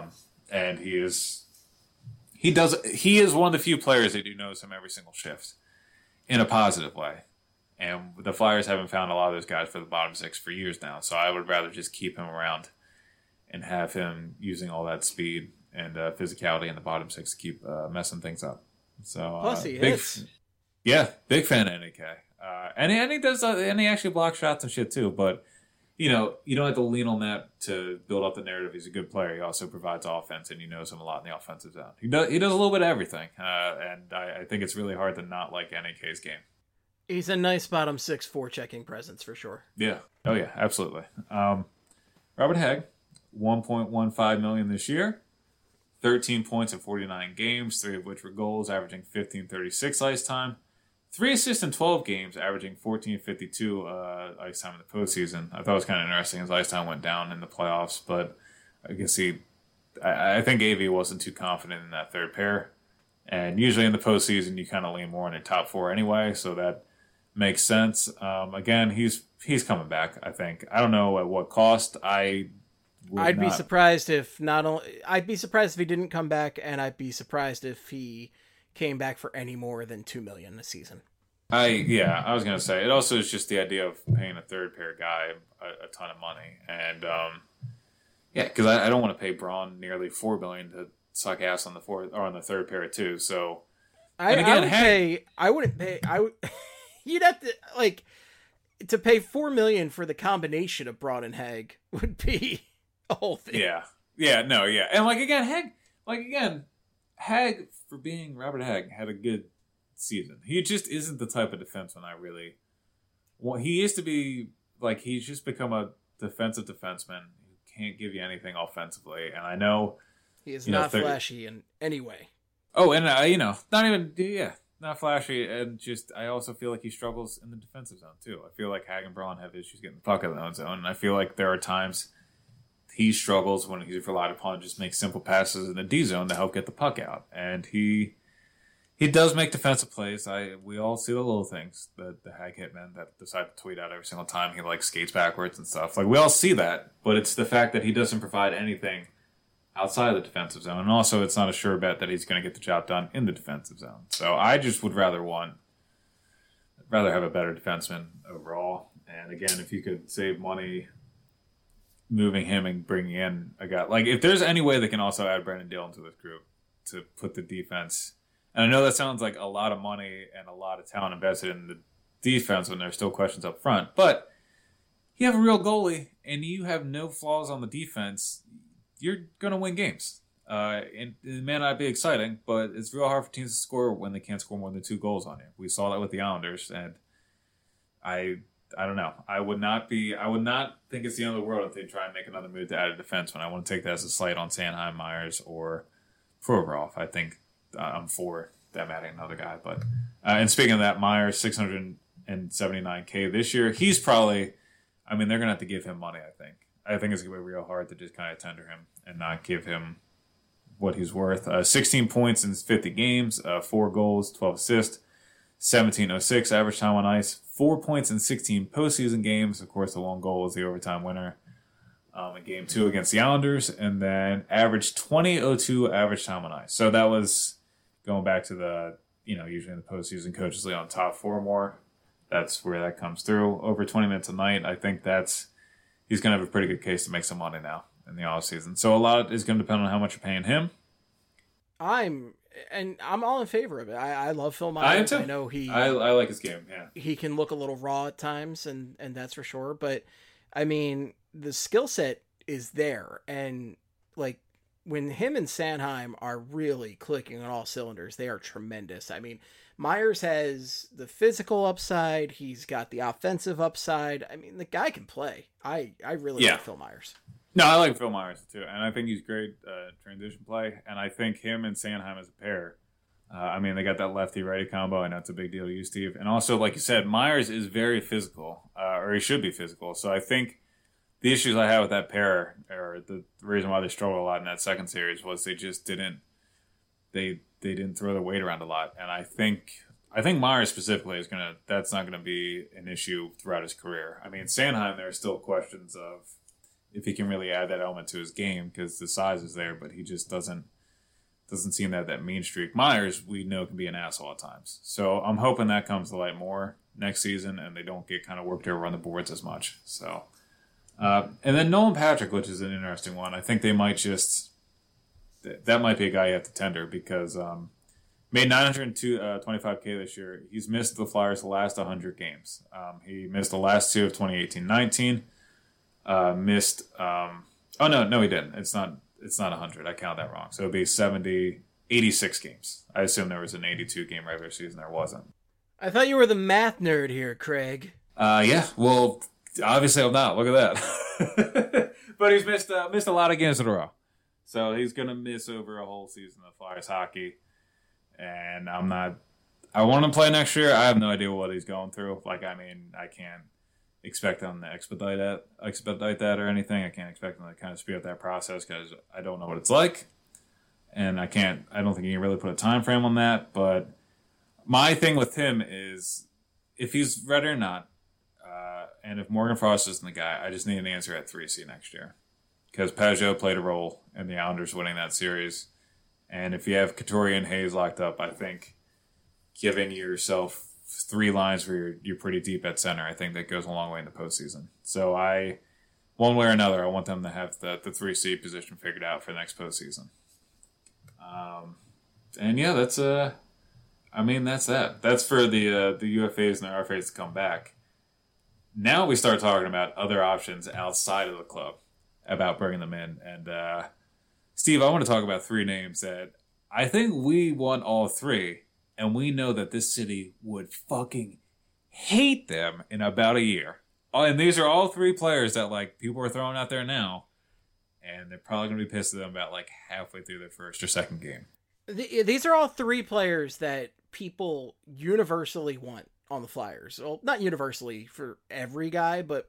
and he is one of the few players that you notice him every single shift in a positive way. And the Flyers haven't found a lot of those guys for the bottom six for years now. So I would rather just keep him around and have him using all that speed and physicality in the bottom six to keep messing things up. So plus he hits. Big fan of NEK. And he does, and he actually blocks shots and shit too. But you don't have to lean on that to build up the narrative. He's a good player. He also provides offense, and you knows him a lot in the offensive zone. He does a little bit of everything, and I think it's really hard to not like NEK's game. He's a nice bottom six forechecking presence for sure. Yeah. Oh yeah, absolutely. Robert Hagg, $1.15 million this year, 13 points in 49 games, 3 of which were goals, averaging 15:36 ice time. 3 assists in 12 games, averaging 14:52 ice time in the postseason. I thought it was kind of interesting. His ice time went down in the playoffs, but I guess I think AV wasn't too confident in that third pair. And usually in the postseason, you kind of lean more on your top 4 anyway, so that makes sense. Again, he's coming back, I think. I don't know at what cost. I'd be surprised if I'd be surprised if he didn't come back, and I'd be surprised if he came back for any more than $2 million a season. I was gonna say it also is just the idea of paying a third pair guy a ton of money, and because I don't want to pay Braun nearly $4 million to suck ass on the fourth or on the third pair too. So I wouldn't pay. You'd have to pay $4 million for the combination of Braun and Hagg would be a whole thing. And Hagg, for being Robert Hagg, had a good season. He just isn't the type of defenseman I really want. He used to be he's just become a defensive defenseman who can't give you anything offensively. And I know he is not flashy in any way. Oh, and not flashy. And just I also feel like he struggles in the defensive zone too. I feel like Hagg and Braun have issues getting the puck out of their own zone, and I feel like there are times he struggles when he's relied upon to just make simple passes in the D zone to help get the puck out. And he does make defensive plays. We all see the little things, the Hagg hitmen that decide to tweet out every single time he skates backwards and stuff. We all see that, but it's the fact that he doesn't provide anything outside of the defensive zone. And also it's not a sure bet that he's going to get the job done in the defensive zone. So I just would rather have a better defenseman overall. And again, if you could save money moving him and bringing in a guy if there's any way they can also add Brandon Dillon to this group to put the defense, and I know that sounds like a lot of money and a lot of talent invested in the defense when there's still questions up front, but you have a real goalie and you have no flaws on the defense, you're going to win games. And it may not be exciting, but it's real hard for teams to score when they can't score more than 2 goals on you. We saw that with the Islanders, and I don't know. I would not think it's the end of the world if they try and make another move to add a defenseman. I wouldn't take that as a slight on Sanheim, Myers, or Provorov. I think I'm for them adding another guy. But and speaking of that, Myers, $679K this year. He's probably, they're going to have to give him money, I think. I think it's going to be real hard to just kind of tender him and not give him what he's worth. 16 points in 50 games, 4 goals, 12 assists. 17:06 average time on ice, 4 points in 16 postseason games. Of course, the one goal was the overtime winner in Game 2 against the Islanders, and then averaged 20:02 average time on ice. So that was going back to the, usually in the postseason, coaches lead on top 4 more. That's where that comes through. Over 20 minutes a night, I think he's going to have a pretty good case to make some money now in the offseason. So a lot is going to depend on how much you're paying him. I'm all in favor of it. I love Phil Myers. I know I like his game. Yeah, he can look a little raw at times, and that's for sure. But the skill set is there, and when him and Sanheim are really clicking on all cylinders, they are tremendous. Myers has the physical upside. He's got the offensive upside. The guy can play. I really like Phil Myers. No, I like Phil Myers too, and I think he's great transition play. And I think him and Sanheim as a pair. They got that lefty-righty combo. I know it's a big deal to you, Steve. And also, like you said, Myers is very physical, or he should be physical. So I think the issues I had with that pair, or the reason why they struggled a lot in that second series, was they just didn't throw the weight around a lot. And I think Myers specifically that's not gonna be an issue throughout his career. Sanheim, there are still questions of, if he can really add that element to his game, because the size is there, but he just doesn't seem to have that mean streak. Myers, we know, can be an asshole at times. So I'm hoping that comes to light more next season and they don't get kind of worked over on the boards as much. So, and then Nolan Patrick, which is an interesting one. I think they might that might be a guy you have to tender because made $925K this year. He's missed the Flyers the last 100 games. He missed the last two of 2018-19. No, he didn't. It's not 100. I count that wrong. So it'd be 86 games. I assume there was an 82 game regular season. There wasn't. I thought you were the math nerd here, Craig. Yeah. Well, obviously I'm not. Look at that. But he's missed a lot of games in a row. So he's going to miss over a whole season of Flyers hockey. And I want him to play next year. I have no idea what he's going through. I can't expect him to expedite that or anything. I can't expect him to kind of speed up that process because I don't know what it's like. And I don't think you can really put a time frame on that. But my thing with him is if he's ready or not, and if Morgan Frost isn't the guy, I just need an answer at 3C next year. Because Peugeot played a role in the Islanders winning that series. And if you have Couturier and Hayes locked up, I think giving yourself 3 lines where you're pretty deep at center, I think that goes a long way in the postseason. So one way or another, I want them to have the 3C position figured out for the next postseason. And yeah, that's that. That's for the UFAs and the RFAs to come back. Now we start talking about other options outside of the club about bringing them in. And Steve, I want to talk about 3 names that I think we want all 3, and we know that this city would fucking hate them in about a year. Oh, and these are all 3 players that people are throwing out there now, and they're probably going to be pissed at them about halfway through their first or second game. These are all 3 players that people universally want on the Flyers. Well, not universally for every guy, but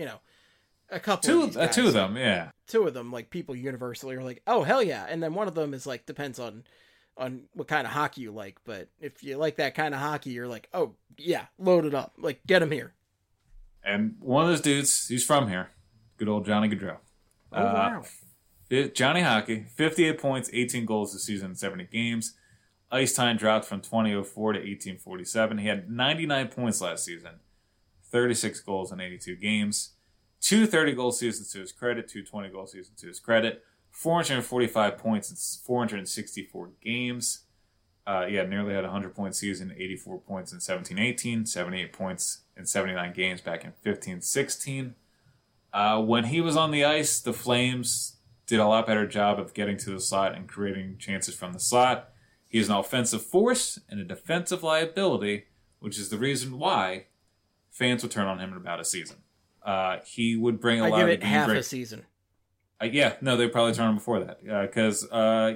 a couple. Two of them, yeah. 2 of them, people universally are like, oh hell yeah, and then one of them is depends on what kind of hockey you like. But if you like that kind of hockey, you're like, oh yeah, load it up, get him here. And one of those dudes, he's from here, good old Johnny Gaudreau. Oh wow. Johnny Hockey, 58 points, 18 goals this season in 70 games. Ice time dropped from 2004 to 1847. He had 99 points last season, 36 goals in 82 games. 2 30-goal seasons to his credit, 2 20-goal seasons to his credit, 445 points in 464 games. Nearly had a 100-point season, 84 points in 17-18, 78 points in 79 games back in 15-16. When he was on the ice, the Flames did a lot better job of getting to the slot and creating chances from the slot. He's an offensive force and a defensive liability, which is the reason why fans would turn on him in about a season. He would bring a lot of... I give it half a season. They'd probably turn him before that. Because,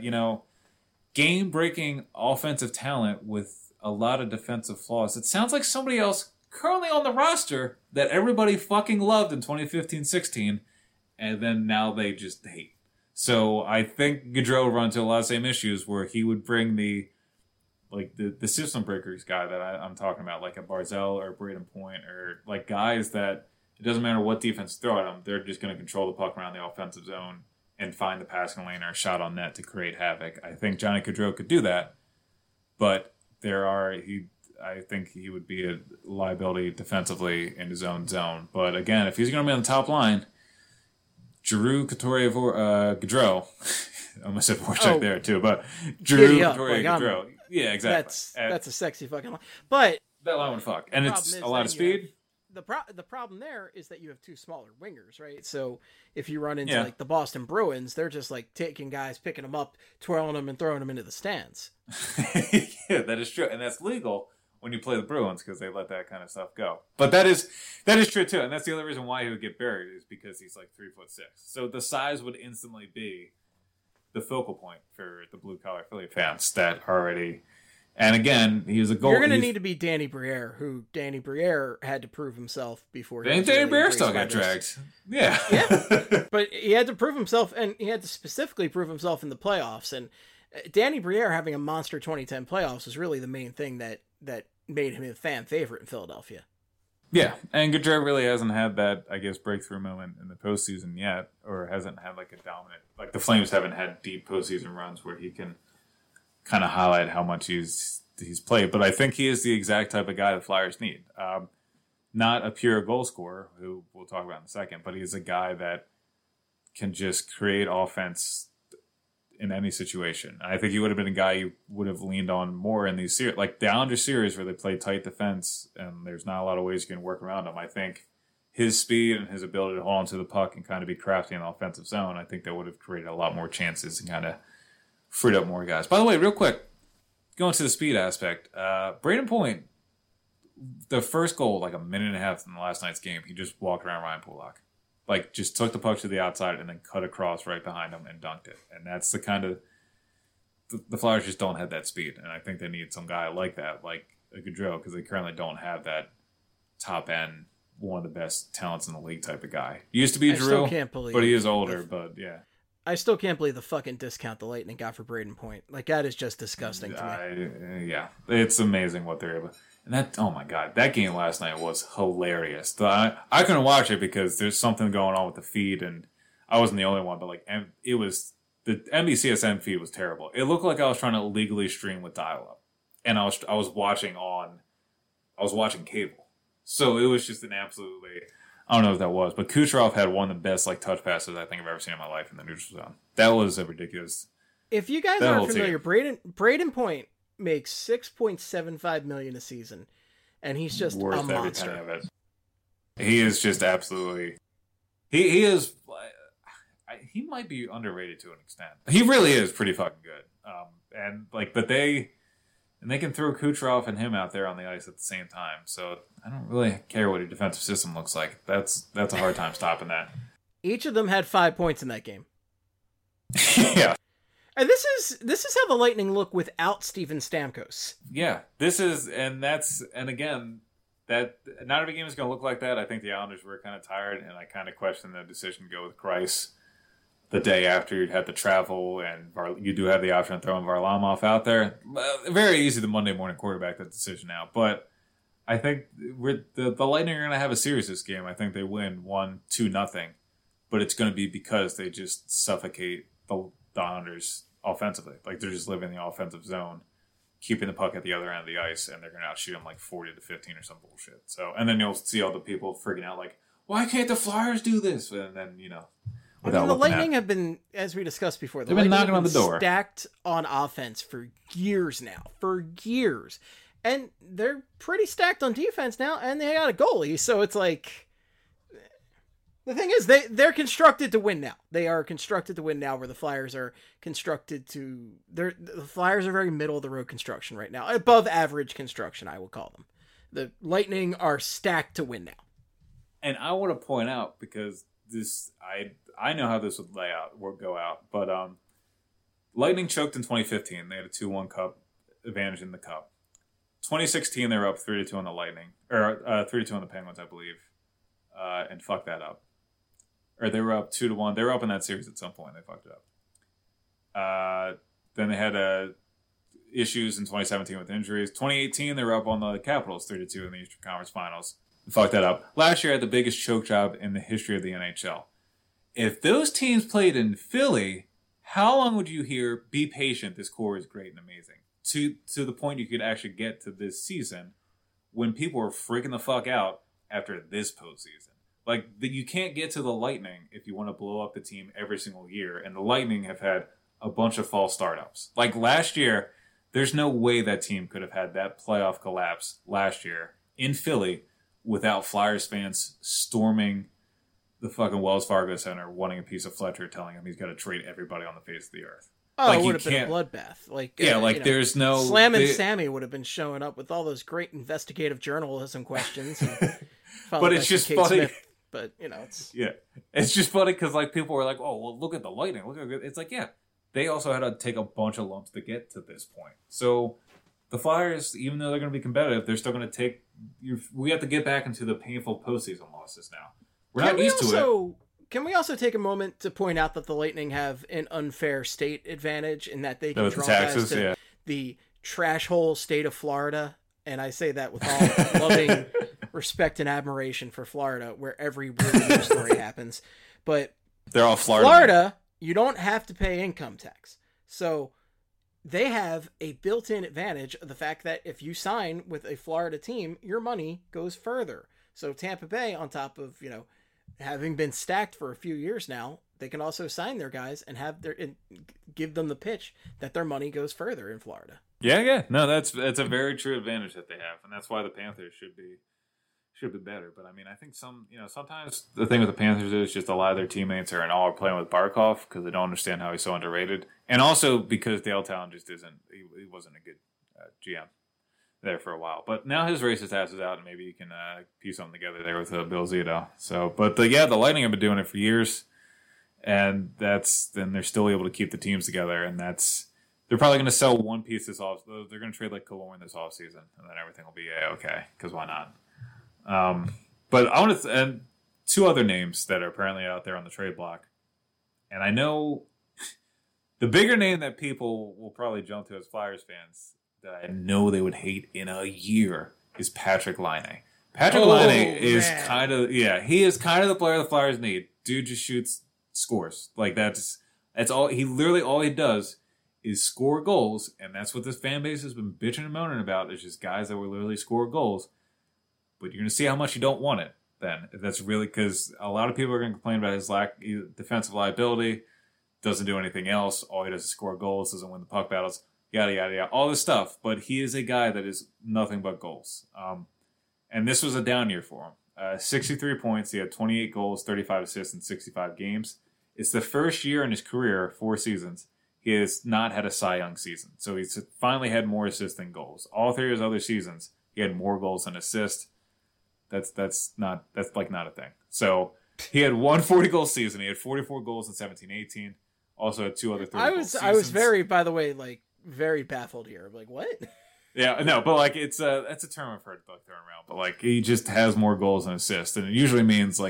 game-breaking offensive talent with a lot of defensive flaws. It sounds like somebody else currently on the roster that everybody fucking loved in 2015-16, and then now they just hate. So I think Gaudreau runs into a lot of the same issues where he would bring the system breakers guy that I'm talking about, like a Barzell or a Braden Point, or guys that it doesn't matter what defense throw at them, they're just going to control the puck around the offensive zone and find the passing lane or a shot on net to create havoc. I think Johnny Gaudreau could do that, but I think he would be a liability defensively in his own zone. But again, if he's going to be on the top line, Giroux, Couturier, Gaudreau, I almost said Voracek there too, but Giroux, Couturier, Gaudreau. Yeah, exactly. That's a sexy fucking line. But that line would fuck. And it's a lot of speed. The problem there is that you have 2 smaller wingers, right? So if you run into the Boston Bruins, they're just taking guys, picking them up, twirling them, and throwing them into the stands. Yeah, that is true, and that's legal when you play the Bruins because they let that kind of stuff go. But that is true too, and that's the other reason why he would get buried is because he's 3'6". So the size would instantly be the focal point for the blue collar Philly fans that already. And again, he's a goal. You're going to need to be Danny Briere, who Danny Briere had to prove himself before. Danny Briere still got dragged. Yeah. But he had to prove himself, and he had to specifically prove himself in the playoffs. And Danny Briere having a monster 2010 playoffs was really the main thing that made him a fan favorite in Philadelphia. Yeah, and Gaudreau really hasn't had that, I guess, breakthrough moment in the postseason yet, or hasn't had like a dominant, like the Flames haven't had deep postseason runs where he can kind of highlight how much he's played. But I think he is the exact type of guy the Flyers need. Not a pure goal scorer, who we'll talk about in a second, but he's a guy that can just create offense in any situation. I think he would have been a guy you would have leaned on more in these series, like the Islanders series where they play tight defense and there's not a lot of ways you can work around him. I think his speed and his ability to hold on to the puck and kind of be crafty in the offensive zone, I think that would have created a lot more chances and kind of freed up more guys. By the way, real quick, going to the speed aspect, Braden Point, the first goal, like a minute and a half in the last night's game, he just walked around Ryan Pulock. Like, just took the puck to the outside and then cut across right behind him and dunked it. And that's the kind of... The Flyers just don't have that speed. And I think they need some guy like that, like a Gaudreau, because they currently don't have that top-end, one of the best talents in the league type of guy. He used to be Drew, but he is older, but yeah. I still can't believe the fucking discount the Lightning got for Braden Point. Like, that is just disgusting to me. Yeah, it's amazing what they're able... And that, oh my God, that game last night was hilarious. I couldn't watch it because there's something going on with the feed, and I wasn't the only one, but like, it was, the NBCSN feed was terrible. It looked like I was trying to legally stream with dial-up, and I was watching cable. So it was just an absolutely, I don't know what that was, but Kucherov had one of the best like touch passes I think I've ever seen in my life in the neutral zone. That was a ridiculous. If you guys aren't familiar, Braden Point makes $6.75 million a season, and he's just worth a monster. Every penny of it. He is just absolutely. He is. He might be underrated to an extent. He really is pretty fucking good. But they can throw Kucherov and him out there on the ice at the same time. So I don't really care what your defensive system looks like. That's a hard time stopping that. Each of them had 5 points in that game. Yeah. And this is how the Lightning look without Steven Stamkos. Yeah, and again, that not every game is going to look like that. I think the Islanders were kind of tired, and I kind of questioned the decision to go with Kreis the day after you'd had to travel, and you do have the option of throwing Varlamov out there. Very easy to Monday morning quarterback that decision now, but I think the Lightning are going to have a series this game. I think they win 1-2-0, but it's going to be because they just suffocate the Islanders offensively. Like, they're just living in the offensive zone, keeping the puck at the other end of the ice, and they're going to outshoot them like 40-15 or some bullshit. So, and then you'll see all the people freaking out like, why can't the Flyers do this? And then, the Lightning have been, as we discussed before, they've been knocking on the door, stacked on offense for years now. And they're pretty stacked on defense now, and they got a goalie, so it's like... The thing is, they're constructed to win now. They are constructed to win now, where the Flyers are constructed to... The Flyers are very middle-of-the-road construction right now. Above average construction, I will call them. The Lightning are stacked to win now. And I want to point out, because I know how this would go out, but Lightning choked in 2015. They had a 2-1 cup advantage in the cup. 2016, they were up 3-2 on the Lightning. Or 3-2 on the Penguins, I believe. And fucked that up. Or they were up 2-1. They were up in that series at some point. They fucked it up. Then they had issues in 2017 with injuries. 2018, they were up on the Capitals 3-2 in the Eastern Conference Finals. Fucked that up. Last year, had the biggest choke job in the history of the NHL. If those teams played in Philly, how long would you hear, be patient, this core is great and amazing? To the point you could actually get to this season when people were freaking the fuck out after this postseason. Like, you can't get to the Lightning if you want to blow up the team every single year. And the Lightning have had a bunch of false startups. Like last year, there's no way that team could have had that playoff collapse last year in Philly without Flyers fans storming the fucking Wells Fargo Center, wanting a piece of Fletcher, telling him he's got to trade everybody on the face of the earth. Oh, like, it would have been a bloodbath. Like, there's no... Slam and Sammy would have been showing up with all those great investigative journalism questions. But it's just funny. Smith. But, it's... Yeah. It's just funny because, like, people were like, oh, well, look at the Lightning. Look how good... It's like, yeah, they also had to take a bunch of lumps to get to this point. So the Flyers, even though they're going to be competitive, they're still going to take... We have to get back into the painful postseason losses now. We're not used to it. Can we also take a moment to point out that the Lightning have an unfair state advantage in that they can draw guys to the trash hole state of Florida? And I say that with all respect and admiration for Florida, where every weird news story happens. But they're all Florida, you don't have to pay income tax. So they have a built-in advantage of the fact that if you sign with a Florida team, your money goes further. So Tampa Bay, on top of, having been stacked for a few years now, they can also sign their guys and give them the pitch that their money goes further in Florida. Yeah. No, that's a very true advantage that they have, and that's why the Panthers should be better. But I mean, I think sometimes the thing with the Panthers is just a lot of their teammates are playing with Barkov because they don't understand how he's so underrated, and also because Dale Talon just he wasn't a good GM there for a while. But now his racist ass is out, and maybe you can piece something together there with Bill Zito. So, but the Lightning have been doing it for years, and then they're still able to keep the teams together, and they're probably going to sell one piece this off. They're going to trade like Killorn this offseason, and then everything will be okay because why not? But I want to and two other names that are apparently out there on the trade block, and I know the bigger name that people will probably jump to as Flyers fans that I know they would hate in a year is Patrick Laine. Patrick Laine is he is kind of the player the Flyers need. Dude just shoots, scores. Like that's all he does is score goals, and that's what this fan base has been bitching and moaning about. Is just guys that will literally score goals. But you're going to see how much you don't want it then. That's really because a lot of people are going to complain about his defensive liability, doesn't do anything else. All he does is score goals, doesn't win the puck battles, yada, yada, yada, all this stuff. But he is a guy that is nothing but goals. And this was a down year for him. 63 points. He had 28 goals, 35 assists in 65 games. It's the first year in his career, 4 seasons, he has not had a Cy Young season. So he's finally had more assists than goals. All 3 of his other seasons, he had more goals than assists. That's not a thing. So he had one 40-goal season. He had 44 goals in 17-18. Also had 2 other 30-goal seasons. I was very, by the way, very baffled here. I'm like, what? Yeah, no, but it's that's a term I've heard thrown around. But he just has more goals than assists, and it usually means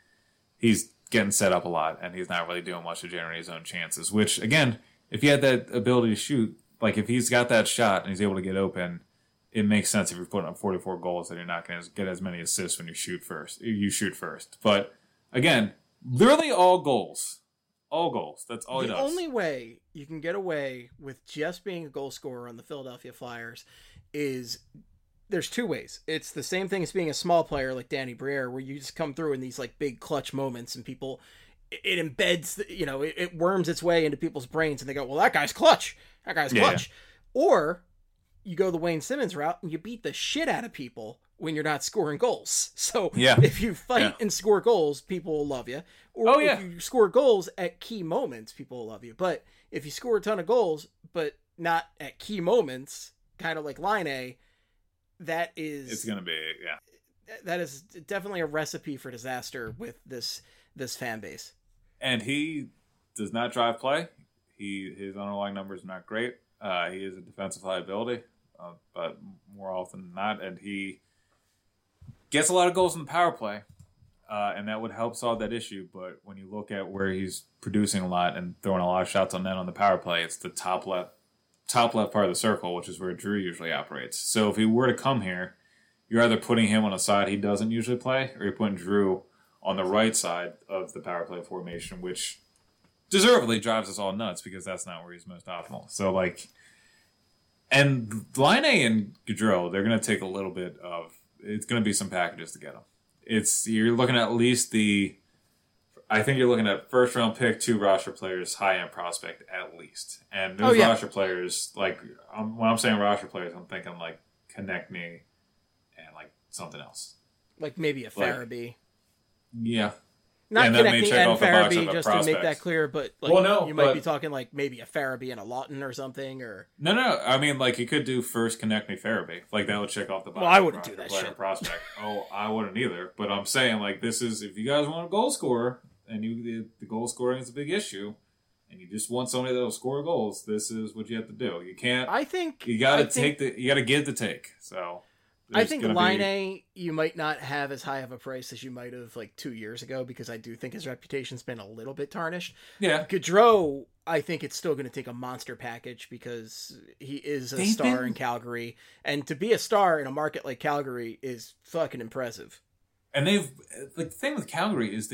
he's getting set up a lot, and he's not really doing much to generate his own chances. Which again, if he had that ability to shoot, if he's got that shot and he's able to get open, it makes sense if you're putting up 44 goals that you're not going to get as many assists when you shoot first. But again, literally all goals. All goals. That's all he does. The only way you can get away with just being a goal scorer on the Philadelphia Flyers is there's 2 ways. It's the same thing as being a small player like Danny Briere, where you just come through in these big clutch moments and people, it embeds, it worms its way into people's brains and they go, well, that guy's clutch. That guy's clutch. Yeah. Or you go the Wayne Simmons route and you beat the shit out of people when you're not scoring goals. So if you fight and score goals, people will love you. Or if you score goals at key moments, people will love you. But if you score a ton of goals, but not at key moments, kind of like Laine, that is... It's going to be, that is definitely a recipe for disaster with this fan base. And he does not drive play. His underlying numbers are not great. He is a defensive liability, but more often than not, and he gets a lot of goals in the power play, and that would help solve that issue. But when you look at where he's producing a lot and throwing a lot of shots on net on the power play, it's the top left part of the circle, which is where Drew usually operates. So if he were to come here, you're either putting him on a side he doesn't usually play, or you're putting Drew on the right side of the power play formation, which deservedly drives us all nuts because that's not where he's most optimal. So, and Laine and Gaudreau, they're going to take a little bit of, it's going to be some packages to get them. You're looking at least I think you're looking at first round pick, 2 roster players, high end prospect at least. And those roster players, when I'm saying roster players, I'm thinking Konechny and something else. Maybe a Farabee. Yeah. Not Konechny and Farabee, just to make that clear, but you might be talking maybe a Farabee and a Lawton or something, or... No. I mean, you could do first Konechny Farabee. That would check off the box. Well, I wouldn't do that shit. Prospect. Oh, I wouldn't either. But I'm saying, this is, if you guys want a goal scorer, and the goal scoring is a big issue, and you just want somebody that'll score goals, this is what you have to do. You can't... I think... You gotta give the take, so... I think Laine, you might not have as high of a price as you might have like 2 years ago, because I do think his reputation's been a little bit tarnished. Yeah. Gaudreau, I think it's still going to take a monster package because he is a star in Calgary. And to be a star in a market like Calgary is fucking impressive. And the thing with Calgary is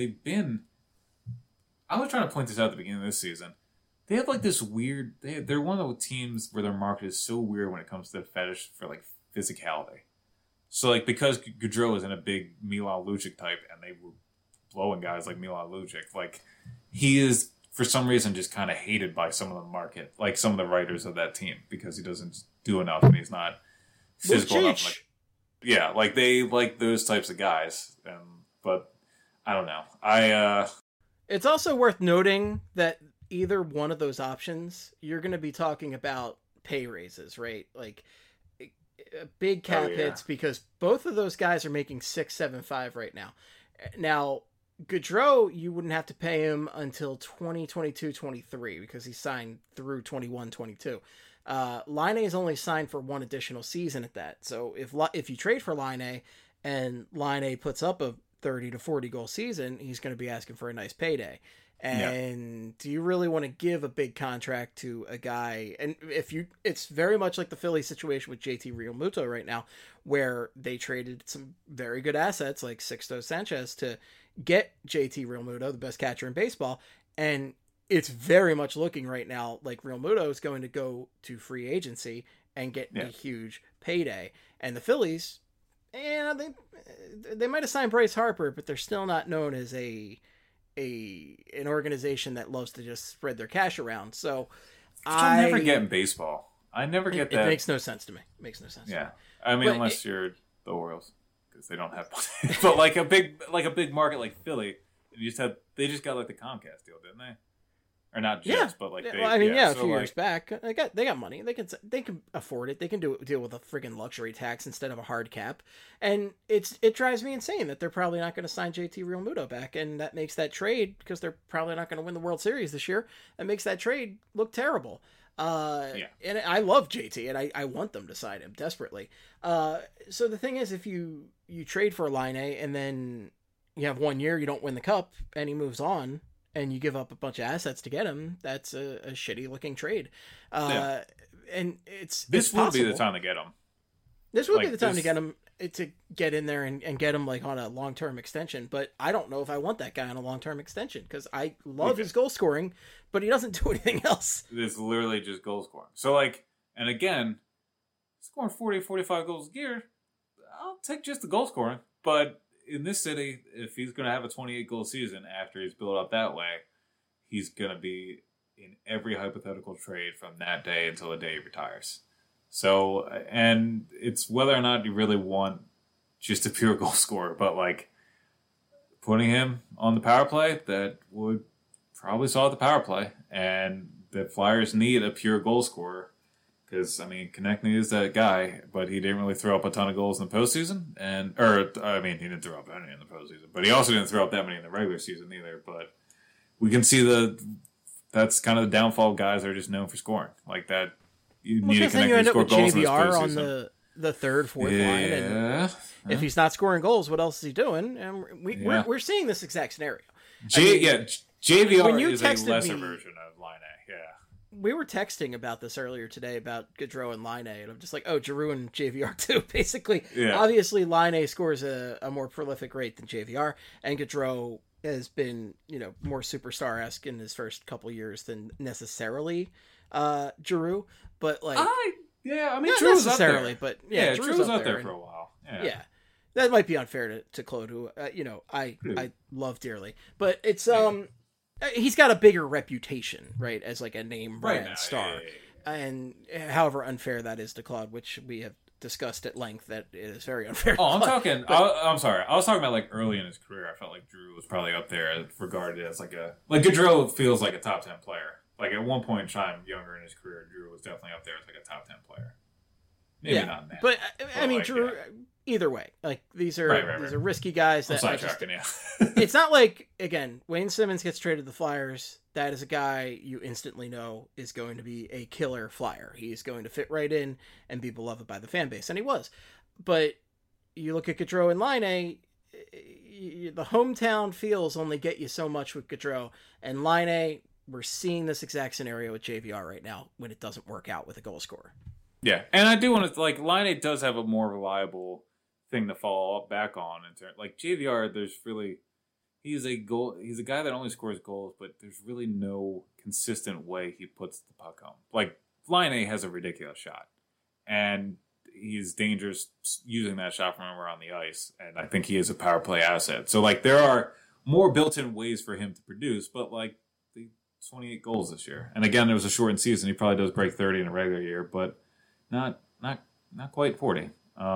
I was trying to point this out at the beginning of this season. They have like this weird, they're one of the teams where their market is so weird when it comes to the fetish for like physicality. So, like, because Gaudreau isn't a big Milan Lucic type, and they were blowing guys like Milan Lucic, like, he is, for some reason, just kind of hated by some of the market, like some of the writers of that team, because he doesn't do enough, and he's not physical enough. Like, yeah, like, they like those types of guys, but I don't know. It's also worth noting that either one of those options, you're going to be talking about pay raises, right? Like, big cap hits, because both of those guys are making 6.75 right now. Now, Gaudreau, you wouldn't have to pay him until 2022-23 because he signed through 21-22. Laine is only signed for one additional season at that. So if you trade for Laine and Laine puts up a 30 to 40 goal season, he's going to be asking for a nice payday. And do you really want to give a big contract to a guy? And it's very much like the Philly situation with JT Realmuto right now, where they traded some very good assets like Sixto Sanchez to get JT Realmuto, the best catcher in baseball. And it's very much looking right now like Realmuto is going to go to free agency and get a huge payday. And the Phillies, they might have signed Bryce Harper, but they're still not known as an organization that loves to just spread their cash around. So I never get in baseball. I never get that. It makes no sense to me. It makes no sense. Yeah, I mean, unless you're the Orioles, because they don't have money. But like a big market like Philly, they just got like the Comcast deal, didn't they? Or not just, but like a few years back, they got money. They can afford it. They can deal with a friggin' luxury tax instead of a hard cap. And it drives me insane that they're probably not going to sign JT Realmuto back, and that makes that trade, because they're probably not going to win the World Series this year. That makes that trade look terrible. And I love JT, and I want them to sign him desperately. So the thing is, if you trade for Laine and then you have 1 year, you don't win the cup, and he moves on, and you give up a bunch of assets to get him, that's a shitty looking trade. And this would be the time to get him. This would be the time to get him, to get in there and get him like on a long-term extension. But I don't know if I want that guy on a long-term extension, because I love his goal scoring, but he doesn't do anything else. It's literally just goal scoring. So like, and again, scoring 40, 45 goals a year, I'll take just the goal scoring. But in this city, if he's going to have a 28-goal season after he's built up that way, he's going to be in every hypothetical trade from that day until the day he retires. So, and it's whether or not you really want just a pure goal scorer, but like putting him on the power play, that would probably solve the power play. And the Flyers need a pure goal scorer. Because, I mean, Konechny is that guy, but he didn't really throw up a ton of goals in the postseason. He didn't throw up any in the postseason. But he also didn't throw up that many in the regular season either. But we can see that's kind of the downfall of guys that are just known for scoring. Like that, you need a Konechny to score goals in this postseason. On the third, fourth line. And if he's not scoring goals, what else is he doing? And we're seeing this exact scenario. JVR is a lesser version of Laine. Yeah. We were texting about this earlier today about Gaudreau and Laine, and I'm just like, oh, Giroux and JVR too. Basically, obviously, Laine scores a more prolific rate than JVR, and Gaudreau has been, more superstar-esque in his first couple years than necessarily Giroux. But like, Giroux was up there. But Giroux was up there for a while. Yeah. That might be unfair to Claude, who I love dearly, but it's he's got a bigger reputation, right, as like a name brand star. And however unfair that is to Claude, which we have discussed at length, that it is very unfair. I'm sorry. I was talking about like early in his career. I felt like Giroux was probably up there, regarded as like Gaudreau feels like a top 10 player. Like at one point in time, younger in his career, Giroux was definitely up there as like a top 10 player. Maybe not now. But I mean, Giroux. Either way, like these are these are risky guys. That it's not like, again, Wayne Simmons gets traded to the Flyers. That is a guy you instantly know is going to be a killer Flyer. He's going to fit right in and be beloved by the fan base, and he was. But you look at Gaudreau and Laine, the hometown feels only get you so much with Gaudreau. And Laine, we're seeing this exact scenario with JVR right now when it doesn't work out with a goal scorer. Yeah, and I do want to, like, Laine does have a more reliable thing to follow up back on. Like, JVR, there's really... He's a guy that only scores goals, but there's really no consistent way he puts the puck home. Like, Laine has a ridiculous shot, and he's dangerous using that shot from around the ice, and I think he is a power play asset. So, like, there are more built-in ways for him to produce, but, like, the 28 goals this year. And again, it was a shortened season. He probably does break 30 in a regular year, but not quite 40.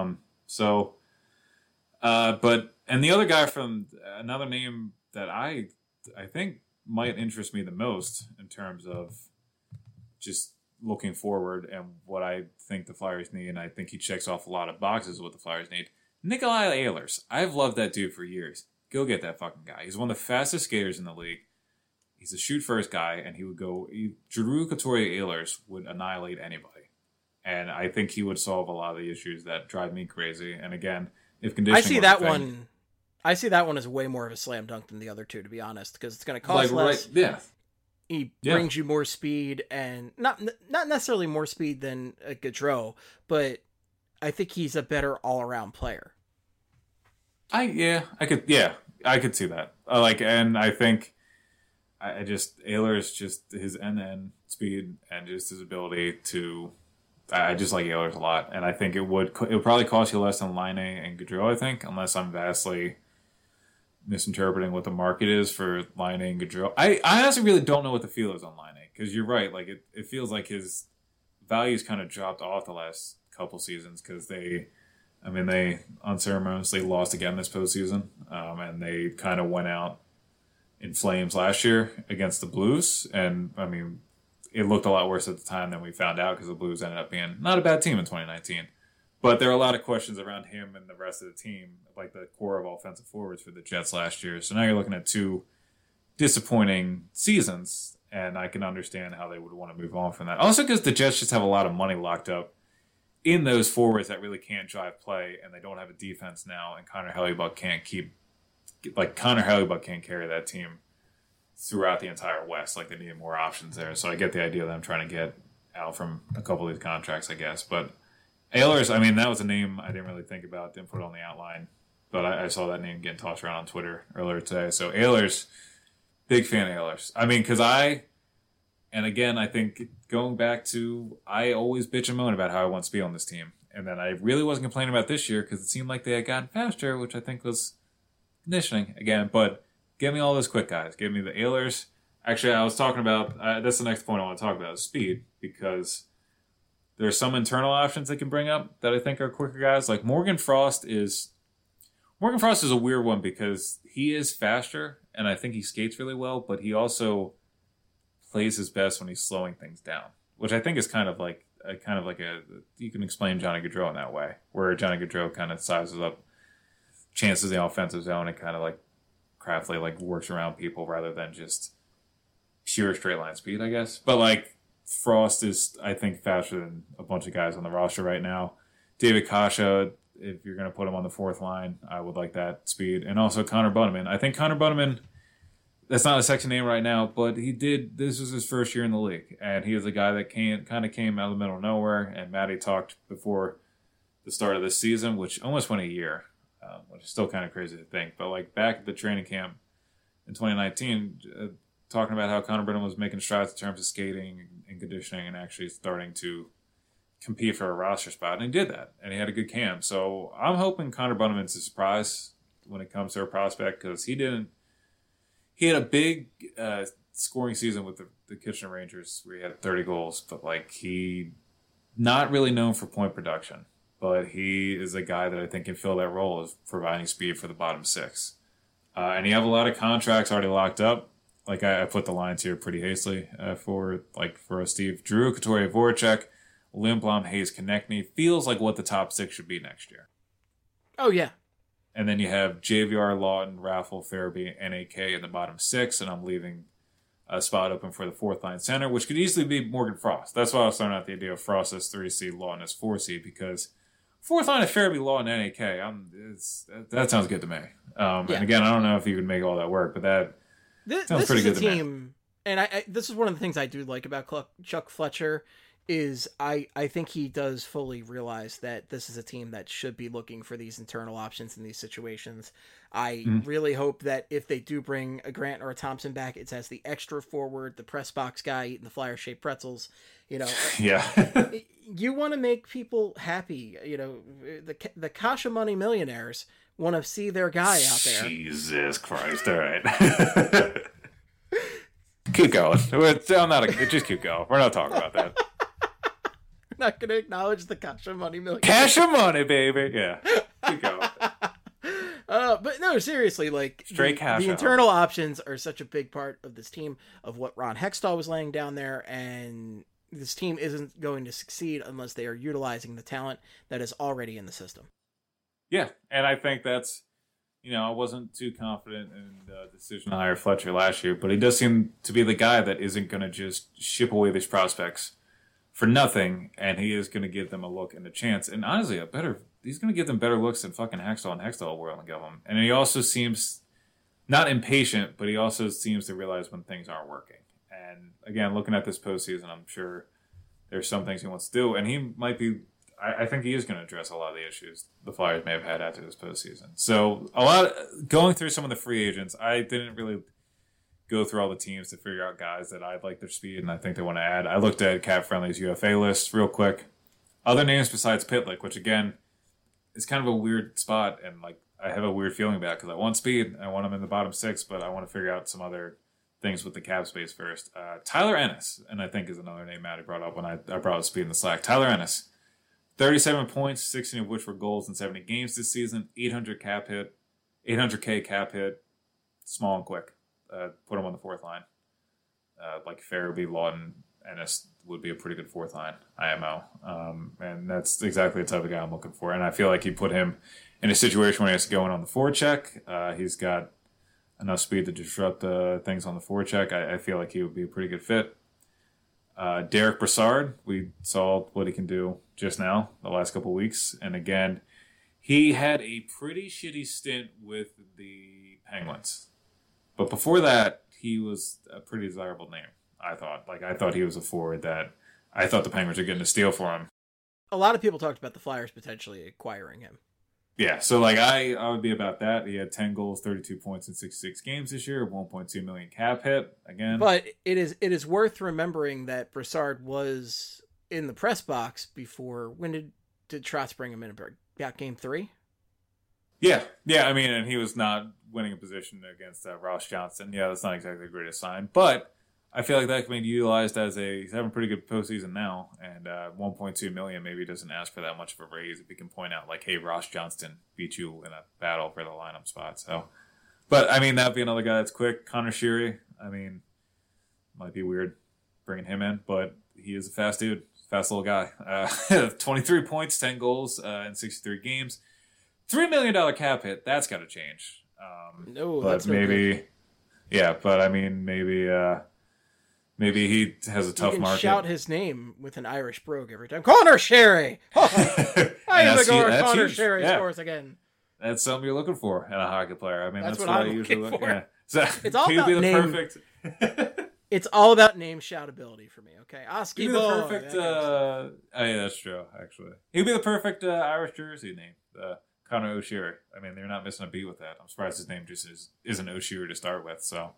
And the other guy from another name that I think might interest me the most in terms of just looking forward and what I think the Flyers need, and I think he checks off a lot of boxes of what the Flyers need. Nikolai Ehlers. I've loved that dude for years. Go get that fucking guy. He's one of the fastest skaters in the league. He's a shoot-first guy, and Drew Couture-Ehlers would annihilate anybody. And I think he would solve a lot of the issues that drive me crazy. And again, if conditioning I see that one as way more of a slam dunk than the other two, to be honest, because it's going to cost less. Right, yeah. He brings you more speed, and not necessarily more speed than a Gaudreau, but I think he's a better all-around player. I could see that. And I think Ehlers, just his end-to-end speed and just his ability to. I just like Ehlers a lot, and I think it would probably cost you less than Laine and Gaudreau, I think, unless I'm vastly misinterpreting what the market is for Laine and Gaudreau. I honestly really don't know what the feel is on Laine, because you're right. Like, it feels like his value's kind of dropped off the last couple seasons, because they unceremoniously lost again this postseason, and they kind of went out in flames last year against the Blues, and I mean, it looked a lot worse at the time than we found out, because the Blues ended up being not a bad team in 2019. But there are a lot of questions around him and the rest of the team, like the core of offensive forwards for the Jets last year. So now you're looking at two disappointing seasons, and I can understand how they would want to move on from that. Also, because the Jets just have a lot of money locked up in those forwards that really can't drive play, and they don't have a defense now, and Connor Hellebuyck can't carry that team throughout the entire West. Like, they need more options there. So I get the idea that I'm trying to get out from a couple of these contracts, I guess. But Ehlers, I mean, that was a name I didn't really think about, didn't put it on the outline. But I saw that name getting tossed around on Twitter earlier today. So Ehlers, big fan of Ehlers. I mean, because and again, I think going back to, I always bitch and moan about how I want speed on this team. And then I really wasn't complaining about this year, because it seemed like they had gotten faster, which I think was conditioning again. But give me all those quick guys. Give me the Ehlers. Actually, I was talking about, that's the next point I want to talk about, is speed, because there are some internal options they can bring up that I think are quicker guys. Like Morgan Frost is a weird one, because he is faster, and I think he skates really well, but he also plays his best when he's slowing things down, which I think is kind of like you can explain Johnny Gaudreau in that way, where Johnny Gaudreau kind of sizes up chances in the offensive zone and kind of like craftily like works around people rather than just sheer straight line speed, I guess. But like Frost is, I think, faster than a bunch of guys on the roster right now. David Kasha, if you're going to put him on the fourth line, I would like that speed. And also Connor Bunnaman. I think Connor Bunnaman, that's not a sexy name right now, but this was his first year in the league. And he was a guy that kind of came out of the middle of nowhere. And Matty talked before the start of this season, which almost went a year, which is still kind of crazy to think. But like back at the training camp in 2019, talking about how Connor Bunnaman was making strides in terms of skating and conditioning and actually starting to compete for a roster spot, and he did that, and he had a good camp. So I'm hoping Connor Bunnaman's a surprise when it comes to a prospect, because he had a big scoring season with the Kitchener Rangers where he had 30 goals, but like he not really known for point production, but he is a guy that I think can fill that role of providing speed for the bottom six. And you have a lot of contracts already locked up. Like I put the lines here pretty hastily for Steve. Drew, Couturier, Voracek, Lindblom, Hayes, Konechny feels like what the top six should be next year. Oh, yeah. And then you have JVR, Lawton, Raffle, Farabee, NAK in the bottom six, and I'm leaving a spot open for the fourth line center, which could easily be Morgan Frost. That's why I was throwing out the idea of Frost as 3C, Lawton as 4C, because Fourth line of Farabee, Law, and NAK. That sounds good to me. And again, I don't know if you can make all that work, but sounds pretty good to me. And this is one of the things I do like about Chuck Fletcher is I think he does fully realize that this is a team that should be looking for these internal options in these situations. I really hope that if they do bring a Grant or a Thompson back, it's as the extra forward, the press box guy eating the Flyer-shaped pretzels. Yeah. You want to make people happy. The Kasha Money millionaires want to see their guy out there. Jesus Christ! All right. Keep going. Just keep going. We're not talking about that. Not going to acknowledge the Kasha Money million. Kasha Money, baby. Yeah. Keep going. But no, seriously, like straight cash. The internal options are such a big part of this team, of what Ron Hextall was laying down there, and this team isn't going to succeed unless they are utilizing the talent that is already in the system. Yeah, and I think that's, I wasn't too confident in the decision to hire Fletcher last year, but he does seem to be the guy that isn't going to just ship away these prospects for nothing, and he is going to give them a look and a chance. And honestly, he's going to give them better looks than fucking Hextall and Hextall were going to give them. And he also seems not impatient, but he also seems to realize when things aren't working. And again, looking at this postseason, I'm sure there's some things he wants to do, and he might be. I think he is going to address a lot of the issues the Flyers may have had after this postseason. So going through some of the free agents, I didn't really go through all the teams to figure out guys that I like their speed and I think they want to add. I looked at Cap Friendly's UFA list real quick. Other names besides Pitlick, which again is kind of a weird spot, and like I have a weird feeling about because I want speed, I want him in the bottom six, but I want to figure out some other things with the cap space first. Tyler Ennis, and I think is another name Matty brought up when I brought up speed in the Slack. Tyler Ennis. 37 points, 16 of which were goals in 70 games this season. 800K cap hit, small and quick. Put him on the fourth line. Like Farabee, Lawton, Ennis would be a pretty good fourth line IMO. And that's exactly the type of guy I'm looking for. And I feel like he put him in a situation where he has to go in on the forecheck. He's got enough speed to disrupt things on the forecheck. I feel like he would be a pretty good fit. Derek Brassard, we saw what he can do just now, the last couple of weeks. And again, he had a pretty shitty stint with the Penguins. But before that, he was a pretty desirable name, I thought. I thought he was a forward that I thought the Penguins were getting a steal for him. A lot of people talked about the Flyers potentially acquiring him. Yeah, so I would be about that. He had 10 goals, 32 points in 66 games this year, 1.2 million cap hit again. But it is worth remembering that Brassard was in the press box before. When did Trotz bring him in? About game 3? Yeah. I mean, and he was not winning a position against Ross Johnston. Yeah, that's not exactly the greatest sign, but I feel like that can be utilized as he's having a pretty good postseason now, and 1.2 million maybe doesn't ask for that much of a raise if you can point out hey, Ross Johnston beat you in a battle for the lineup spot. So, but I mean that'd be another guy that's quick. Connor Sheary, I mean, might be weird bringing him in, but he is a fast dude, fast little guy. 23 points, 10 goals in 63 games, $3 million cap hit. That's got to change. No, but that's maybe, no yeah. But I mean, maybe he has a tough you can market. Shout his name with an Irish brogue every time. Connor Sherry! Oh, I am the Connor Sherry scores again. That's something you're looking for in a hockey player. I mean, that's what I'm I usually looking for. Yeah. So, it's all about name. Perfect. It's all about name shoutability for me. Okay, Oski He'd be the perfect. Oh yeah, that's true. Actually, he'd be the perfect Irish jersey name, Connor O'Sheary. I mean, they're not missing a beat with that. I'm surprised his name just isn't O'Sheary to start with. So.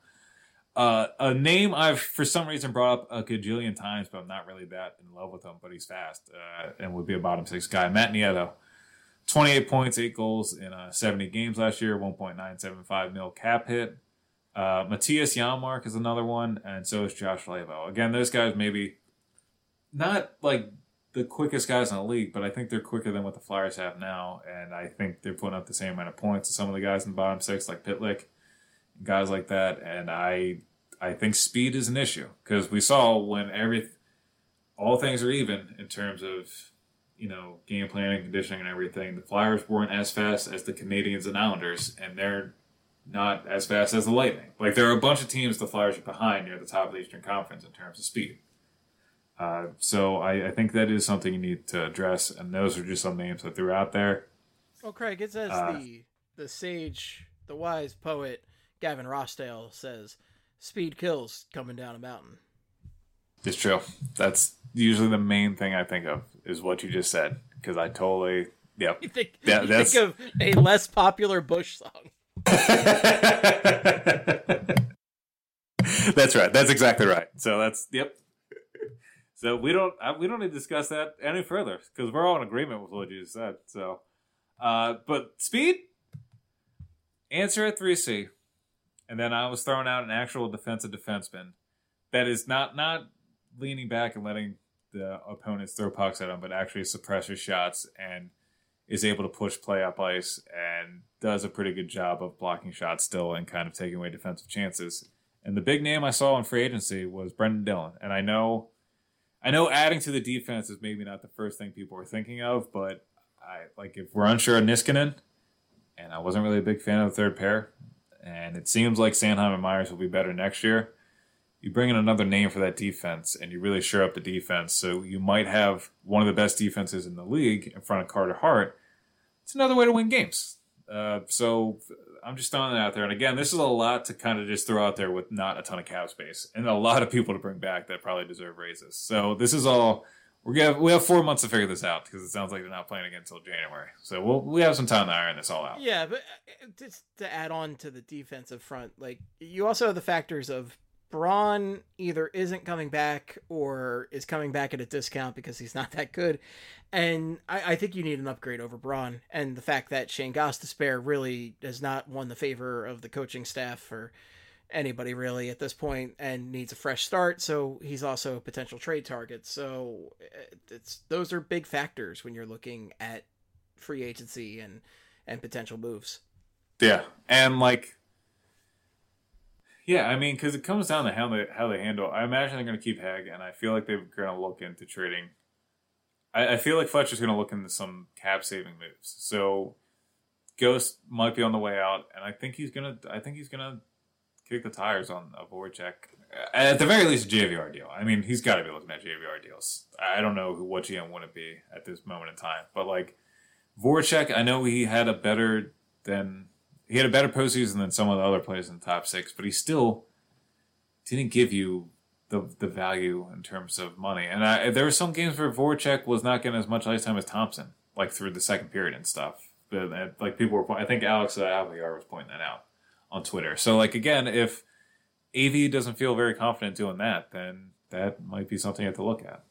A name I've for some reason brought up a gajillion times, but I'm not really that in love with him. But he's fast and would be a bottom six guy. Matt Nieto, 28 points, 8 goals in 70 games last year, 1.975 mil cap hit. Matthias Janmark is another one, and so is Josh Lavo. Again, those guys maybe not like the quickest guys in the league, but I think they're quicker than what the Flyers have now, and I think they're putting up the same amount of points as some of the guys in the bottom six, like Pitlick. Guys like that, and I think speed is an issue because we saw when all things are even in terms of game planning, conditioning, and everything. The Flyers weren't as fast as the Canadians and Islanders, and they're not as fast as the Lightning. There are a bunch of teams the Flyers are behind near the top of the Eastern Conference in terms of speed. So I think that is something you need to address, and those are just some names I threw out there. Well, Craig, it says the sage, the wise poet Gavin Rossdale says, "Speed kills coming down a mountain." It's true. That's usually the main thing I think of is what you just said, because I totally You think of a less popular Bush song. That's right. That's exactly right. So that's yep. So we don't need to discuss that any further because we're all in agreement with what you just said. So, but speed answer at 3C, and then I was throwing out an actual defensive defenseman that is not leaning back and letting the opponents throw pucks at him, but actually suppresses shots and is able to push play up ice and does a pretty good job of blocking shots still and kind of taking away defensive chances. And the big name I saw in free agency was Brendan Dillon. And I know adding to the defense is maybe not the first thing people are thinking of, but if we're unsure of Niskanen, and I wasn't really a big fan of the third pair, and it seems like Sanheim and Myers will be better next year, you bring in another name for that defense, and you really shore up the defense. So you might have one of the best defenses in the league in front of Carter Hart. It's another way to win games. So I'm just throwing that out there. And again, this is a lot to kind of just throw out there with not a ton of cap space and a lot of people to bring back that probably deserve raises. So this is all we have 4 months to figure this out because it sounds like they're not playing again until January. So we have some time to iron this all out. Yeah, but just to add on to the defensive front, like you also have the factors of Braun either isn't coming back or is coming back at a discount because he's not that good. And I think you need an upgrade over Braun. And the fact that Shane Gostisbehere really has not won the favor of the coaching staff or anybody really at this point and needs a fresh start. So he's also a potential trade target. So those are big factors when you're looking at free agency and potential moves. Yeah. And yeah, I mean, because it comes down to how they handle. I imagine they're going to keep Hag, and I feel like they're going to look into trading. I feel like Fletcher's going to look into some cap saving moves. So Ghost might be on the way out, and I think he's gonna kick the tires on a Voracek. At the very least, a JVR deal. I mean, he's got to be looking at JVR deals. I don't know what GM wouldn't be at this moment in time, but Voracek, I know he had a better postseason than some of the other players in the top six, but he still didn't give you the value in terms of money. And there were some games where Voracek was not getting as much ice time as Thompson, through the second period and stuff. But people were, I think Alex Aviar was pointing that out on Twitter. So again, if AV doesn't feel very confident doing that, then that might be something you have to look at.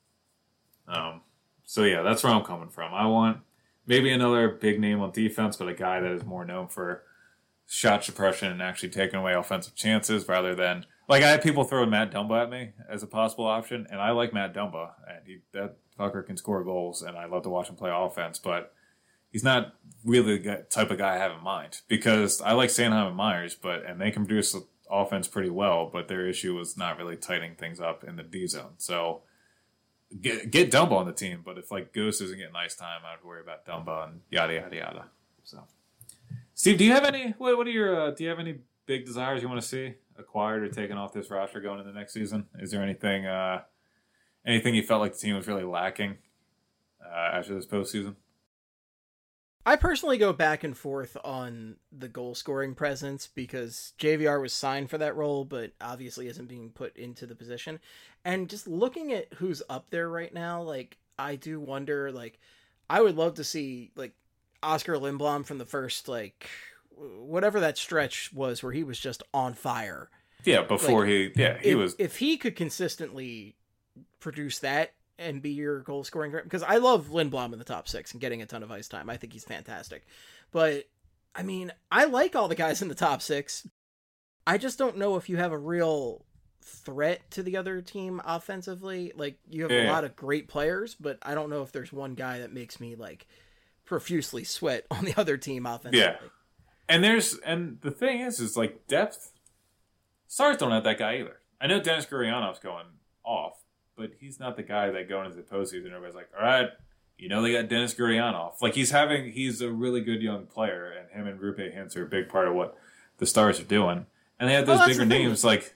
So yeah, that's where I'm coming from. I want maybe another big name on defense, but a guy that is more known for shot suppression and actually taking away offensive chances rather than I had people throwing Matt Dumba at me as a possible option, and I like Matt Dumba, and that fucker can score goals, and I love to watch him play offense, but he's not really the type of guy I have in mind because I like Sanheim and Myers, and they can produce offense pretty well, but their issue was not really tightening things up in the D zone. So get Dumba on the team, but if Ghost isn't getting ice time, I'd worry about Dumba and yada yada yada. So, Steve, do you have any? What are your? Do you have any big desires you want to see acquired or taken off this roster going into the next season? Is there anything you felt like the team was really lacking after this postseason? I personally go back and forth on the goal scoring presence because JVR was signed for that role, but obviously isn't being put into the position. And just looking at who's up there right now, I do wonder, I would love to see Oscar Lindblom from the first, whatever that stretch was where he was just on fire. Yeah, before if he could consistently produce that and be your goal scoring, because I love Lindblom in the top six and getting a ton of ice time. I think he's fantastic. But I mean, I like all the guys in the top six. I just don't know if you have a real threat to the other team offensively. You have a lot of great players, but I don't know if there's one guy that makes me profusely sweat on the other team offensively. Yeah. And the thing is depth. Stars don't have that guy either. I know Dennis Gurianov's going off, but he's not the guy that going into the postseason, everybody's like, all right, they got Dennis Gurianov. He's a really good young player, and him and Rupe Hintz are a big part of what the Stars are doing. And they have those bigger names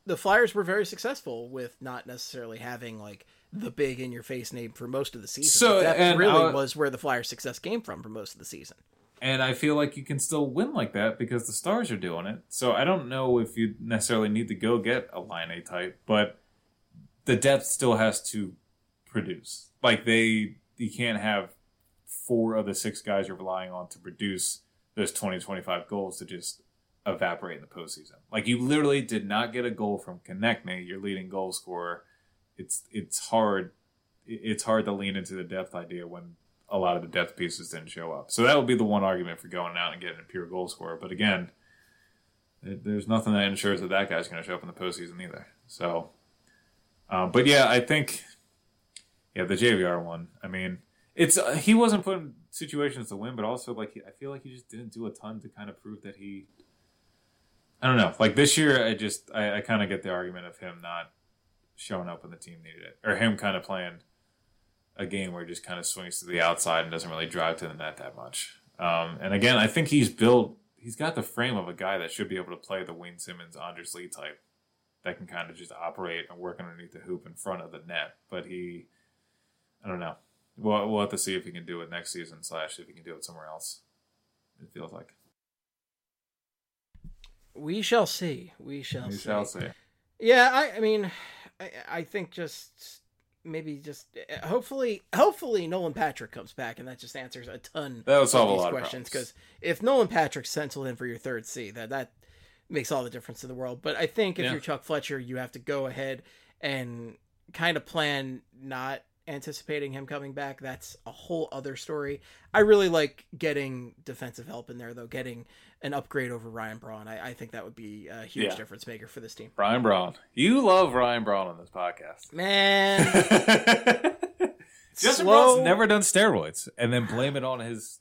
the Flyers were very successful with not necessarily having like the big in your face name for most of the season. So that really was where the Flyers' success came from for most of the season. And I feel like you can still win like that because the Stars are doing it. So I don't know if you necessarily need to go get a Line A type, but the depth still has to produce. Like you can't have 4 of the 6 guys you're relying on to produce those 20, 25 goals to just evaporate in the postseason. Like you literally did not get a goal from Konechny, your leading goal scorer. It's hard to lean into the depth idea when a lot of the depth pieces didn't show up. So that would be the one argument for going out and getting a pure goal scorer. But again, there's nothing that ensures that guy's going to show up in the postseason either. So, but yeah, I think, the JVR one. I mean, he wasn't put in situations to win, but also like I feel like he just didn't do a ton to kind of prove that he. I don't know. Like this year, I kind of get the argument of him not showing up when the team needed it, or him kind of playing a game where he just kind of swings to the outside and doesn't really drive to the net that much. And again, I think he's got the frame of a guy that should be able to play the Wayne Simmons, Anders Lee type that can kind of just operate and work underneath the hoop in front of the net. But I don't know. We'll have to see if he can do it next season / if he can do it somewhere else. It feels like. We shall see. We shall see. Yeah, I mean, I think hopefully Nolan Patrick comes back and that just answers a ton that would solve of these a lot questions. Because if Nolan Patrick's penciled in for your third C, that makes all the difference in the world. But I think if you're Chuck Fletcher, you have to go ahead and kind of plan not anticipating him coming back. That's a whole other story. I really like getting defensive help in there, though. Getting an upgrade over Ryan Braun. I think that would be a huge difference maker for this team. Ryan Braun. You love Ryan Braun on this podcast. Man. Justin Braun's never done steroids and then blame it on his,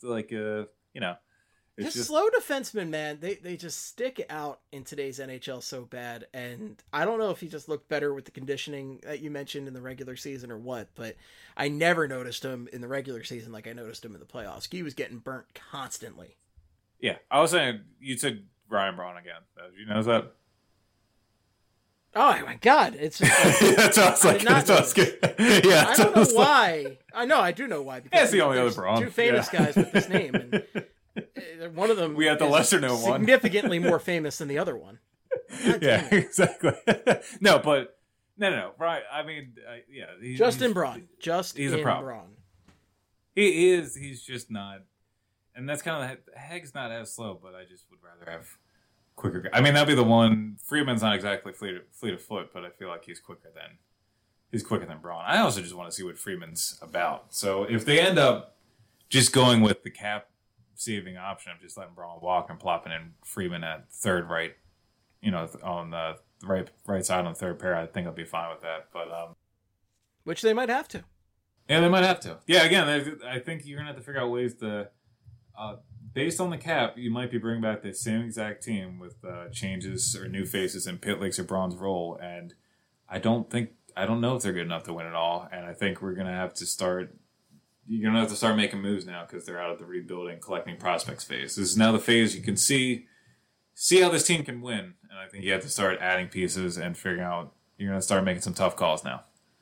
Just slow defensemen, man. They just stick out in today's NHL so bad. And I don't know if he just looked better with the conditioning that you mentioned in the regular season or what, but I never noticed him in the regular season like I noticed him in the playoffs. He was getting burnt constantly. Yeah, I was saying, you said Ryan Braun again. Did you notice that? Oh my God! It's just like, that's what I was like. I don't know why. I know I do know why. Because it's the only other Braun. 2 famous guys with this name, and one of them we had the lesser known one, significantly more famous than the other one. Yeah, exactly. No. Right? I mean, Justin Braun. He's a problem. Braun. He is. He's just not. And that's kind of Heg's not as slow, but I just would rather have quicker. I mean, that'd be the one. Freeman's not exactly fleet of foot, but I feel like he's quicker than Braun. I also just want to see what Freeman's about. So if they end up just going with the cap saving option of just letting Braun walk and plopping in Freeman at third right, on the right side on the third pair, I think I'll be fine with that. But which they might have to. Yeah, they might have to. Yeah, again, I think you're gonna have to figure out ways to. Based on the cap, you might be bringing back the same exact team with changes or new faces in Pitlick's or Braun's role, and I don't know if they're good enough to win it all. And I think we're gonna have to start. You're gonna have to start making moves now because they're out of the rebuilding, collecting prospects phase. This is now the phase you can see how this team can win, and I think you have to start adding pieces and figuring out. You're gonna start making some tough calls now.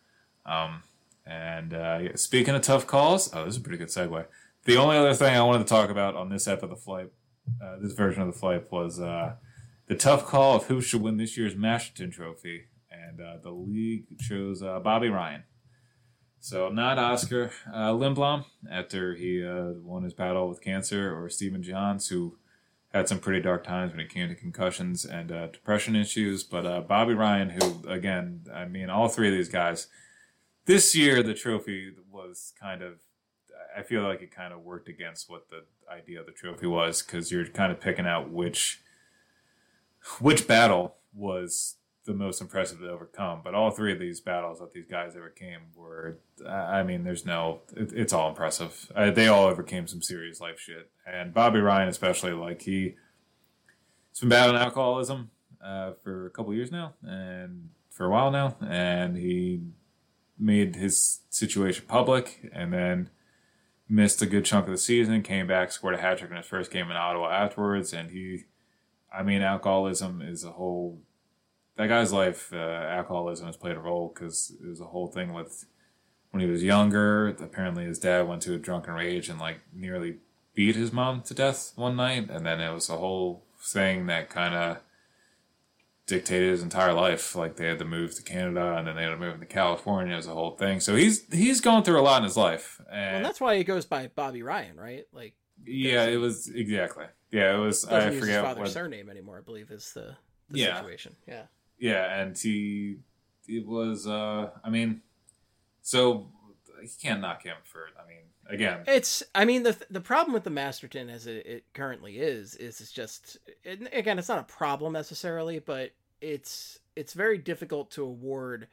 Speaking of tough calls, this is a pretty good segue. The only other thing I wanted to talk about on this ep of the Flight, this version of the Flight, was the tough call of who should win this year's Masterton Trophy, and the league chose Bobby Ryan. So not Oscar Lindblom after he won his battle with cancer, or Stephen Johns, who had some pretty dark times when it came to concussions and depression issues, but Bobby Ryan, who, again, I mean, all 3 of these guys, this year the trophy was kind of, I feel like it kind of worked against what the idea of the trophy was, because you're kind of picking out which battle was the most impressive to overcome. But all 3 of these battles that these guys overcame were, I mean, it's all impressive. They all overcame some serious life shit. And Bobby Ryan especially, like he's been battling alcoholism for a couple years now, and for a while now, and he made his situation public, and then missed a good chunk of the season, came back, scored a hat trick in his first game in Ottawa afterwards, and alcoholism is a whole that guy's life, alcoholism has played a role because it was a whole thing with when he was younger. Apparently, his dad went to a drunken rage and like nearly beat his mom to death one night, and then it was a whole thing that kind of dictated his entire life. Like they had to move to Canada, and then they had to move to California. It was a whole thing. So he's gone through a lot in his life, and that's why he goes by Bobby Ryan, right? Like, yeah, it was exactly. Yeah, it was. Doesn't I use forget his father's what surname anymore. I believe is the Yeah. situation. Yeah. Yeah, and it was. I mean, so you can't knock him for. I mean, again, the problem with the Masterton as it currently is it's just again, it's not a problem necessarily, but it's very difficult to award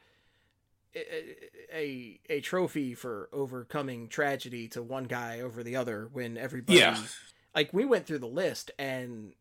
a trophy for overcoming tragedy to one guy over the other when everybody like we went through the list, and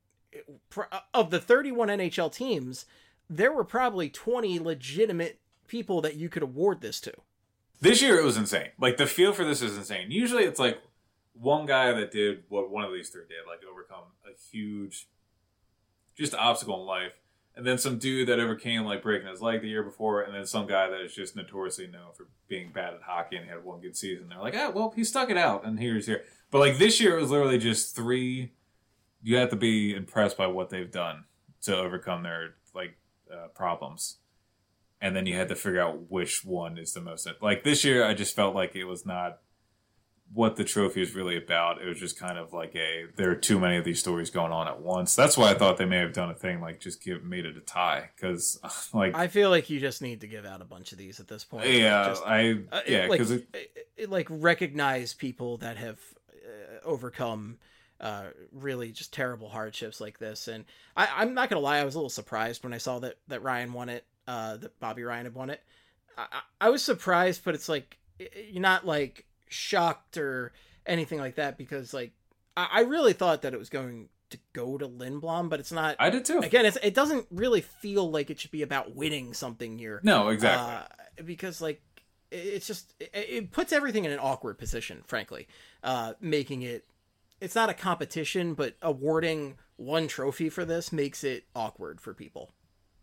of the 31 NHL teams, there were probably 20 legitimate people that you could award this to. This year it was insane. Like the feel for this is insane. Usually it's like one guy that did what one of these three did, like overcome a huge just obstacle in life. And then some dude that overcame like breaking his leg the year before, and then some guy that is just notoriously known for being bad at hockey and had one good season. They're like, well, he stuck it out, and here's here. But like this year, it was literally just three. You have to be impressed by what they've done to overcome their like problems, and then you had to figure out which one is the most. Like this year, I just felt like it was not what the trophy is really about. It was just kind of like there are too many of these stories going on at once. That's why I thought they may have done a thing like just made it a tie, because like I feel like you just need to give out a bunch of these at this point. Yeah, because like recognize people that have overcome really just terrible hardships like this. And I'm not gonna lie, I was a little surprised when I saw that Ryan won it, that Bobby Ryan had won it. I was surprised, but it's like you're not like shocked or anything like that, because like I really thought that it was going to go to Lindblom, but it's not. I did too. Again, it doesn't really feel like it should be about winning something here. No, exactly. Because like it's just it puts everything in an awkward position, frankly, making it's not a competition, but awarding one trophy for this makes it awkward for people.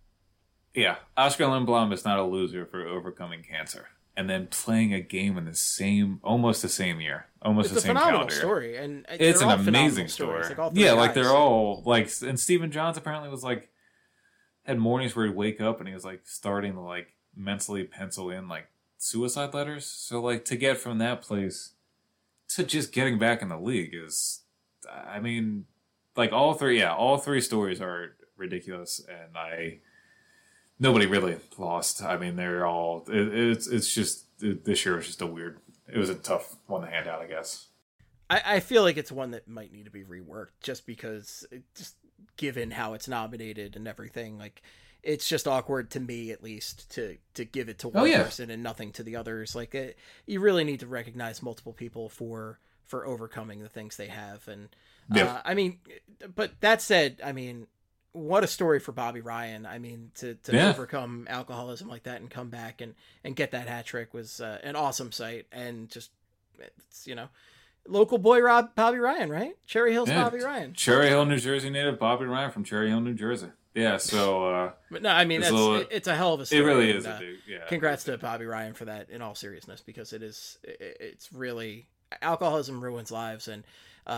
Yeah, Oscar Lindblom is not a loser for overcoming cancer and then playing a game in almost the same year, almost the same calendar. It's a phenomenal story, and it's an amazing story. Like they're all like, and Stephen Johns apparently was like had mornings where he'd wake up and he was like starting to like mentally pencil in like suicide letters. So like to get from that place to just getting back in the league is, I mean, like all three stories are ridiculous, and nobody really lost. I mean, they're all. It's just this year was just it was a tough one to hand out, I guess. I feel like it's one that might need to be reworked, just because, just given how it's nominated and everything, like it's just awkward to me, at least, to give it to one person and nothing to the others. Like you really need to recognize multiple people for overcoming the things they have, and I mean, but that said, I mean, what a story for Bobby Ryan. I mean, to overcome alcoholism like that and come back and get that hat trick was an awesome sight. And just, it's, local boy Bobby Ryan, right? Cherry Hill's Bobby Ryan. Cherry Hill, New Jersey native Bobby Ryan from Cherry Hill, New Jersey. Yeah, so... but no, I mean, it's a hell of a story. It really is a dude, yeah. Congrats to Bobby Ryan for that, in all seriousness, because it's really... Alcoholism ruins lives, and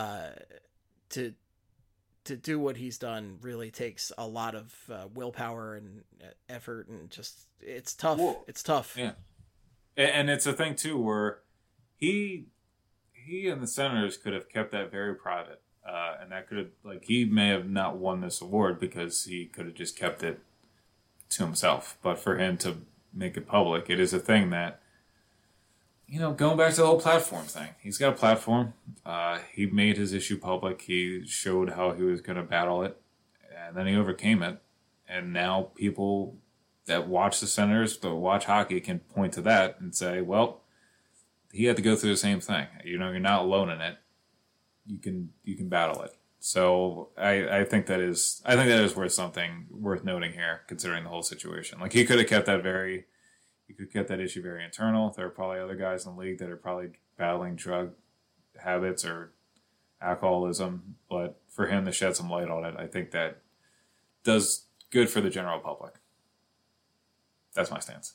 to do what he's done really takes a lot of willpower and effort, and just it's tough. Well, it's tough. Yeah, and it's a thing too where he and the Senators could have kept that very private, and that could have, like, he may have not won this award because he could have just kept it to himself. But for him to make it public, it is a thing that, going back to the whole platform thing, he's got a platform. He made his issue public. He showed how he was going to battle it, and then he overcame it. And now people that watch the Senators, that watch hockey, can point to that and say, well, he had to go through the same thing. You're not alone in it. You can battle it. So I think that is worth noting here, considering the whole situation. Like, he could have kept that you could get that issue very internal. There are probably other guys in the league that are probably battling drug habits or alcoholism, but for him to shed some light on it, I think that does good for the general public. That's my stance.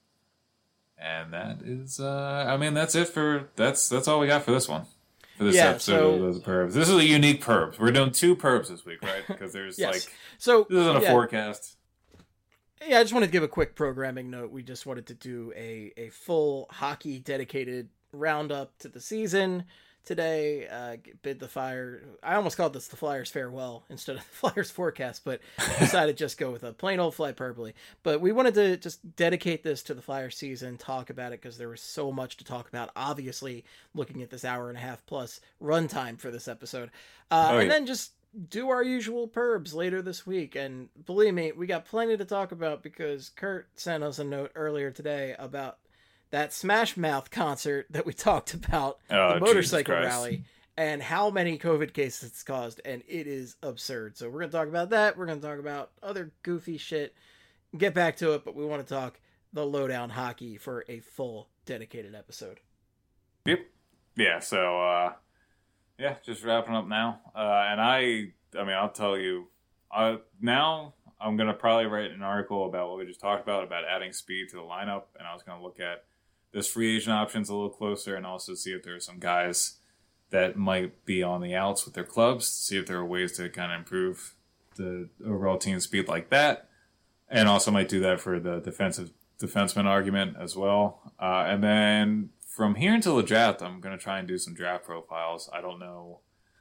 And that is, that's it for that's all we got for this one. For this episode of the Perbs. This is a unique Perbs. We're doing 2 Perbs this week, right? Because there's this isn't a forecast. Yeah, I just wanted to give a quick programming note. We just wanted to do a full hockey dedicated roundup to the season today. Bid the Fire. I almost called this the Flyers farewell instead of the Flyers forecast, but decided just go with a plain old hyperbole. But we wanted to just dedicate this to the Flyers season, talk about it because there was so much to talk about. Obviously, looking at this hour and a half plus runtime for this episode, and then just do our usual Perbs later this week. And believe me, we got plenty to talk about because Kurt sent us a note earlier today about that Smash Mouth concert that we talked about, the motorcycle rally, and how many COVID cases it's caused, and it is absurd. So we're going to talk about that. We're going to talk about other goofy shit, get back to it, but we want to talk the Lowdown Hockey for a full dedicated episode. Yep. Yeah, so, just wrapping up now. And I'll tell you, now I'm going to probably write an article about what we just talked about adding speed to the lineup, and I was going to look at those free agent options a little closer and also see if there are some guys that might be on the outs with their clubs, see if there are ways to kind of improve the overall team speed like that. And also might do that for the defenseman argument as well. And then from here until the draft, I'm going to try and do some draft profiles. I don't know.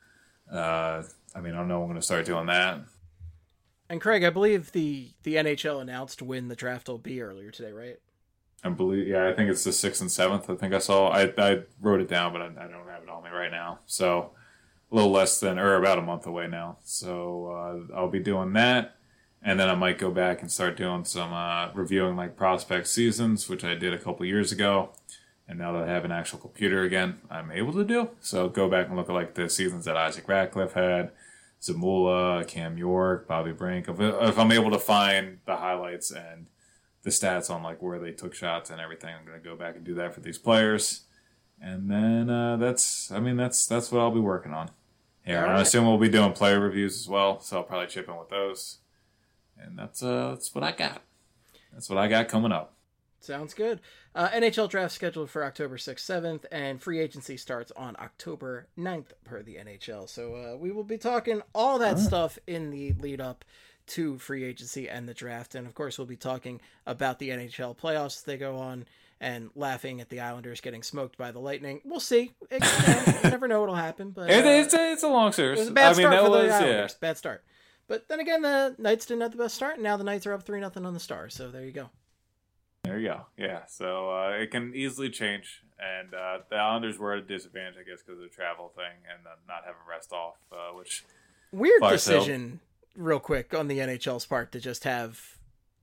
I don't know when I'm going to start doing that. And Craig, I believe the NHL announced when the draft will be earlier today, right? I think it's the 6th and 7th. I think I saw. I wrote it down, but I don't have it on me right now. So a little less than, or about a month away now. So I'll be doing that, and then I might go back and start doing some reviewing like prospect seasons, which I did a couple years ago. And now that I have an actual computer again, I'm able to do. So go back and look at like the seasons that Isaac Ratcliffe had, Zamula, Cam York, Bobby Brink. If I'm able to find the highlights and the stats on like where they took shots and everything, I'm going to go back and do that for these players. And then that's what I'll be working on. Yeah, right. I assume we'll be doing player reviews as well, so I'll probably chip in with those. And that's what I got. That's what I got coming up. Sounds good. NHL draft scheduled for October 6th, 7th, and free agency starts on October 9th per the NHL. So we will be talking all that stuff in the lead up to free agency and the draft. And of course, we'll be talking about the NHL playoffs as they go on and laughing at the Islanders getting smoked by the Lightning. We'll see. You never know what'll happen. But it's a long series. It was a bad start for the Islanders. Yeah. Bad start. But then again, the Knights didn't have the best start, and now the Knights are up 3-0 on the Stars. So there you go. There you go. Yeah, so it can easily change. And the Islanders were at a disadvantage, I guess, because of the travel thing and not having rest off, which... Weird decision, real quick, on the NHL's part to just have...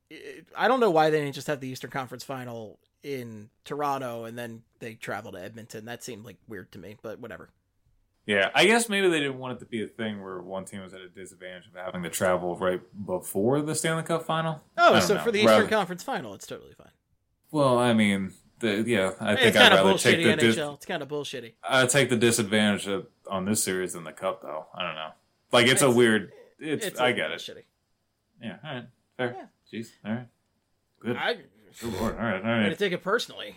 I don't know why they didn't just have the Eastern Conference Final in Toronto and then they travel to Edmonton. That seemed like weird to me, but whatever. Yeah, I guess maybe they didn't want it to be a thing where one team was at a disadvantage of having to travel right before the Stanley Cup Final. Oh, so for the Eastern Conference Final, it's totally fine. Well, I mean, I think I'd rather take the NHL. It's kind of bullshitty. I'd take the disadvantage on this series than the Cup, though. I don't know. Like, it's a weird... I get it. Shitty. Yeah, all right. Fair. Yeah. Jeez, all right. Good. Good Lord. All right. I'm going to take it personally.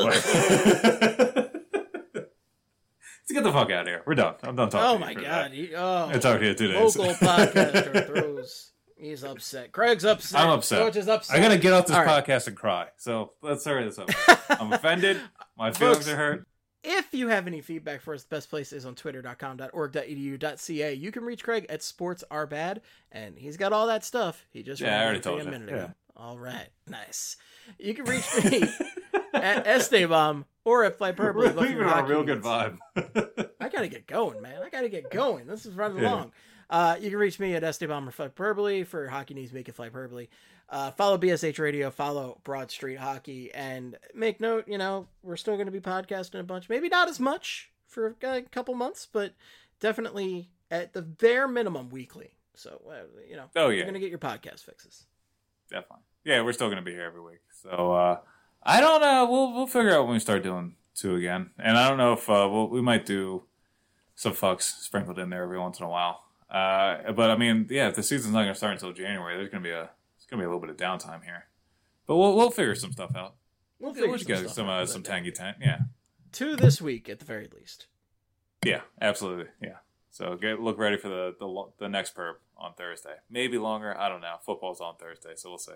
Let's get the fuck out of here. We're done. I'm done talking. Oh my god! I talked to you 2 days. Local podcaster throws. He's upset. Craig's upset. I'm upset. George is upset. I'm gonna get off this podcast and cry. So let's hurry this up. I'm offended. My feelings are hurt. If you have any feedback for us, the best place is on twitter.com.org.edu.ca. You can reach Craig at sportsarbad, and he's got all that stuff. He just I already told you a minute ago. All right, nice. You can reach me at Esteban or at Flyperbole. We're leaving on a real good vibe. I gotta get going, man. This is running long. You can reach me at Esteban or Flyperbole for Hockey News, Make It Flyperbole. Follow BSH Radio, follow Broad Street Hockey, and make note, we're still going to be podcasting a bunch. Maybe not as much for a couple months, but definitely at the bare minimum weekly. So, you're going to get your podcast fixes. Definitely. Yeah, we're still going to be here every week. So, I don't know. We'll figure out when we start doing 2 again. And I don't know if we might do some fucks sprinkled in there every once in a while. But I mean, if the season's not going to start until January, there's going to be a little bit of downtime here. But we'll figure some stuff out. We'll get some tangy tent. Yeah. 2 this week at the very least. Yeah, absolutely. Yeah. So look ready for the next perp on Thursday. Maybe longer. I don't know. Football's on Thursday, so we'll see.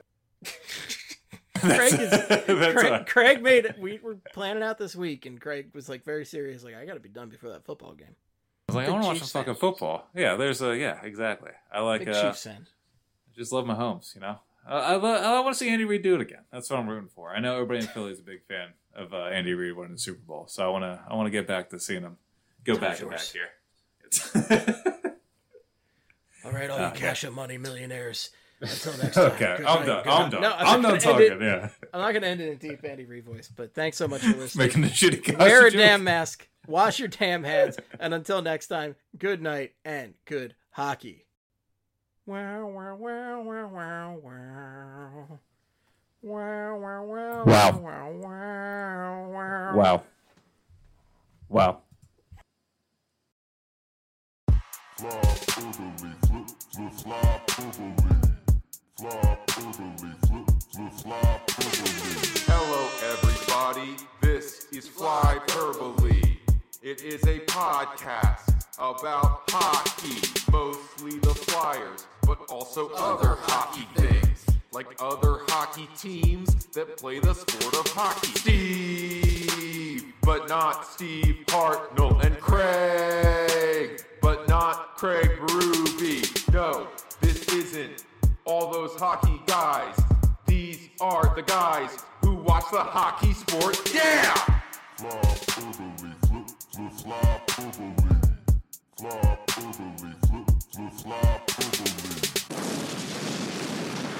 Craig made it. We were planning out this week, and Craig was like very serious. Like, I got to be done before that football game. I was like, I want to watch some fucking football. Yeah, exactly. I like big Chiefs fan. I just love Mahomes. You know, I want to see Andy Reid do it again. That's what I'm rooting for. I know everybody in Philly is a big fan of Andy Reid winning the Super Bowl, so I want to get back to seeing him go back and back here. All right, all you cash up money millionaires. Until next time. Okay, I'm done. No, I'm done talking. Yeah, I'm not going to end it in deep Andy Reid voice, but thanks so much for listening. Making the shitty costume. Wear a damn mask. Wash your damn hands. And until next time, good night and good hockey. Wow, wow, wow, wow, wow, wow. Wow, wow, wow, wow, wow, wow, wow. Wow. Wow. Flop orderly, flip, flip, flop orderly. Flop orderly, flip, flip, flop orderly. Hello everybody, this is Flyperbole. It is a podcast about hockey, mostly the Flyers, but also other hockey things, like other hockey teams that play the sport of hockey. Steve, but not Steve Hartnell, and Craig, but not Craig Berube. No, this isn't all those hockey guys. These are the guys who watch the hockey sport. Yeah! Flop orderly, flip, flip, flop orderly. Flop orderly, flip, flip, flop orderly.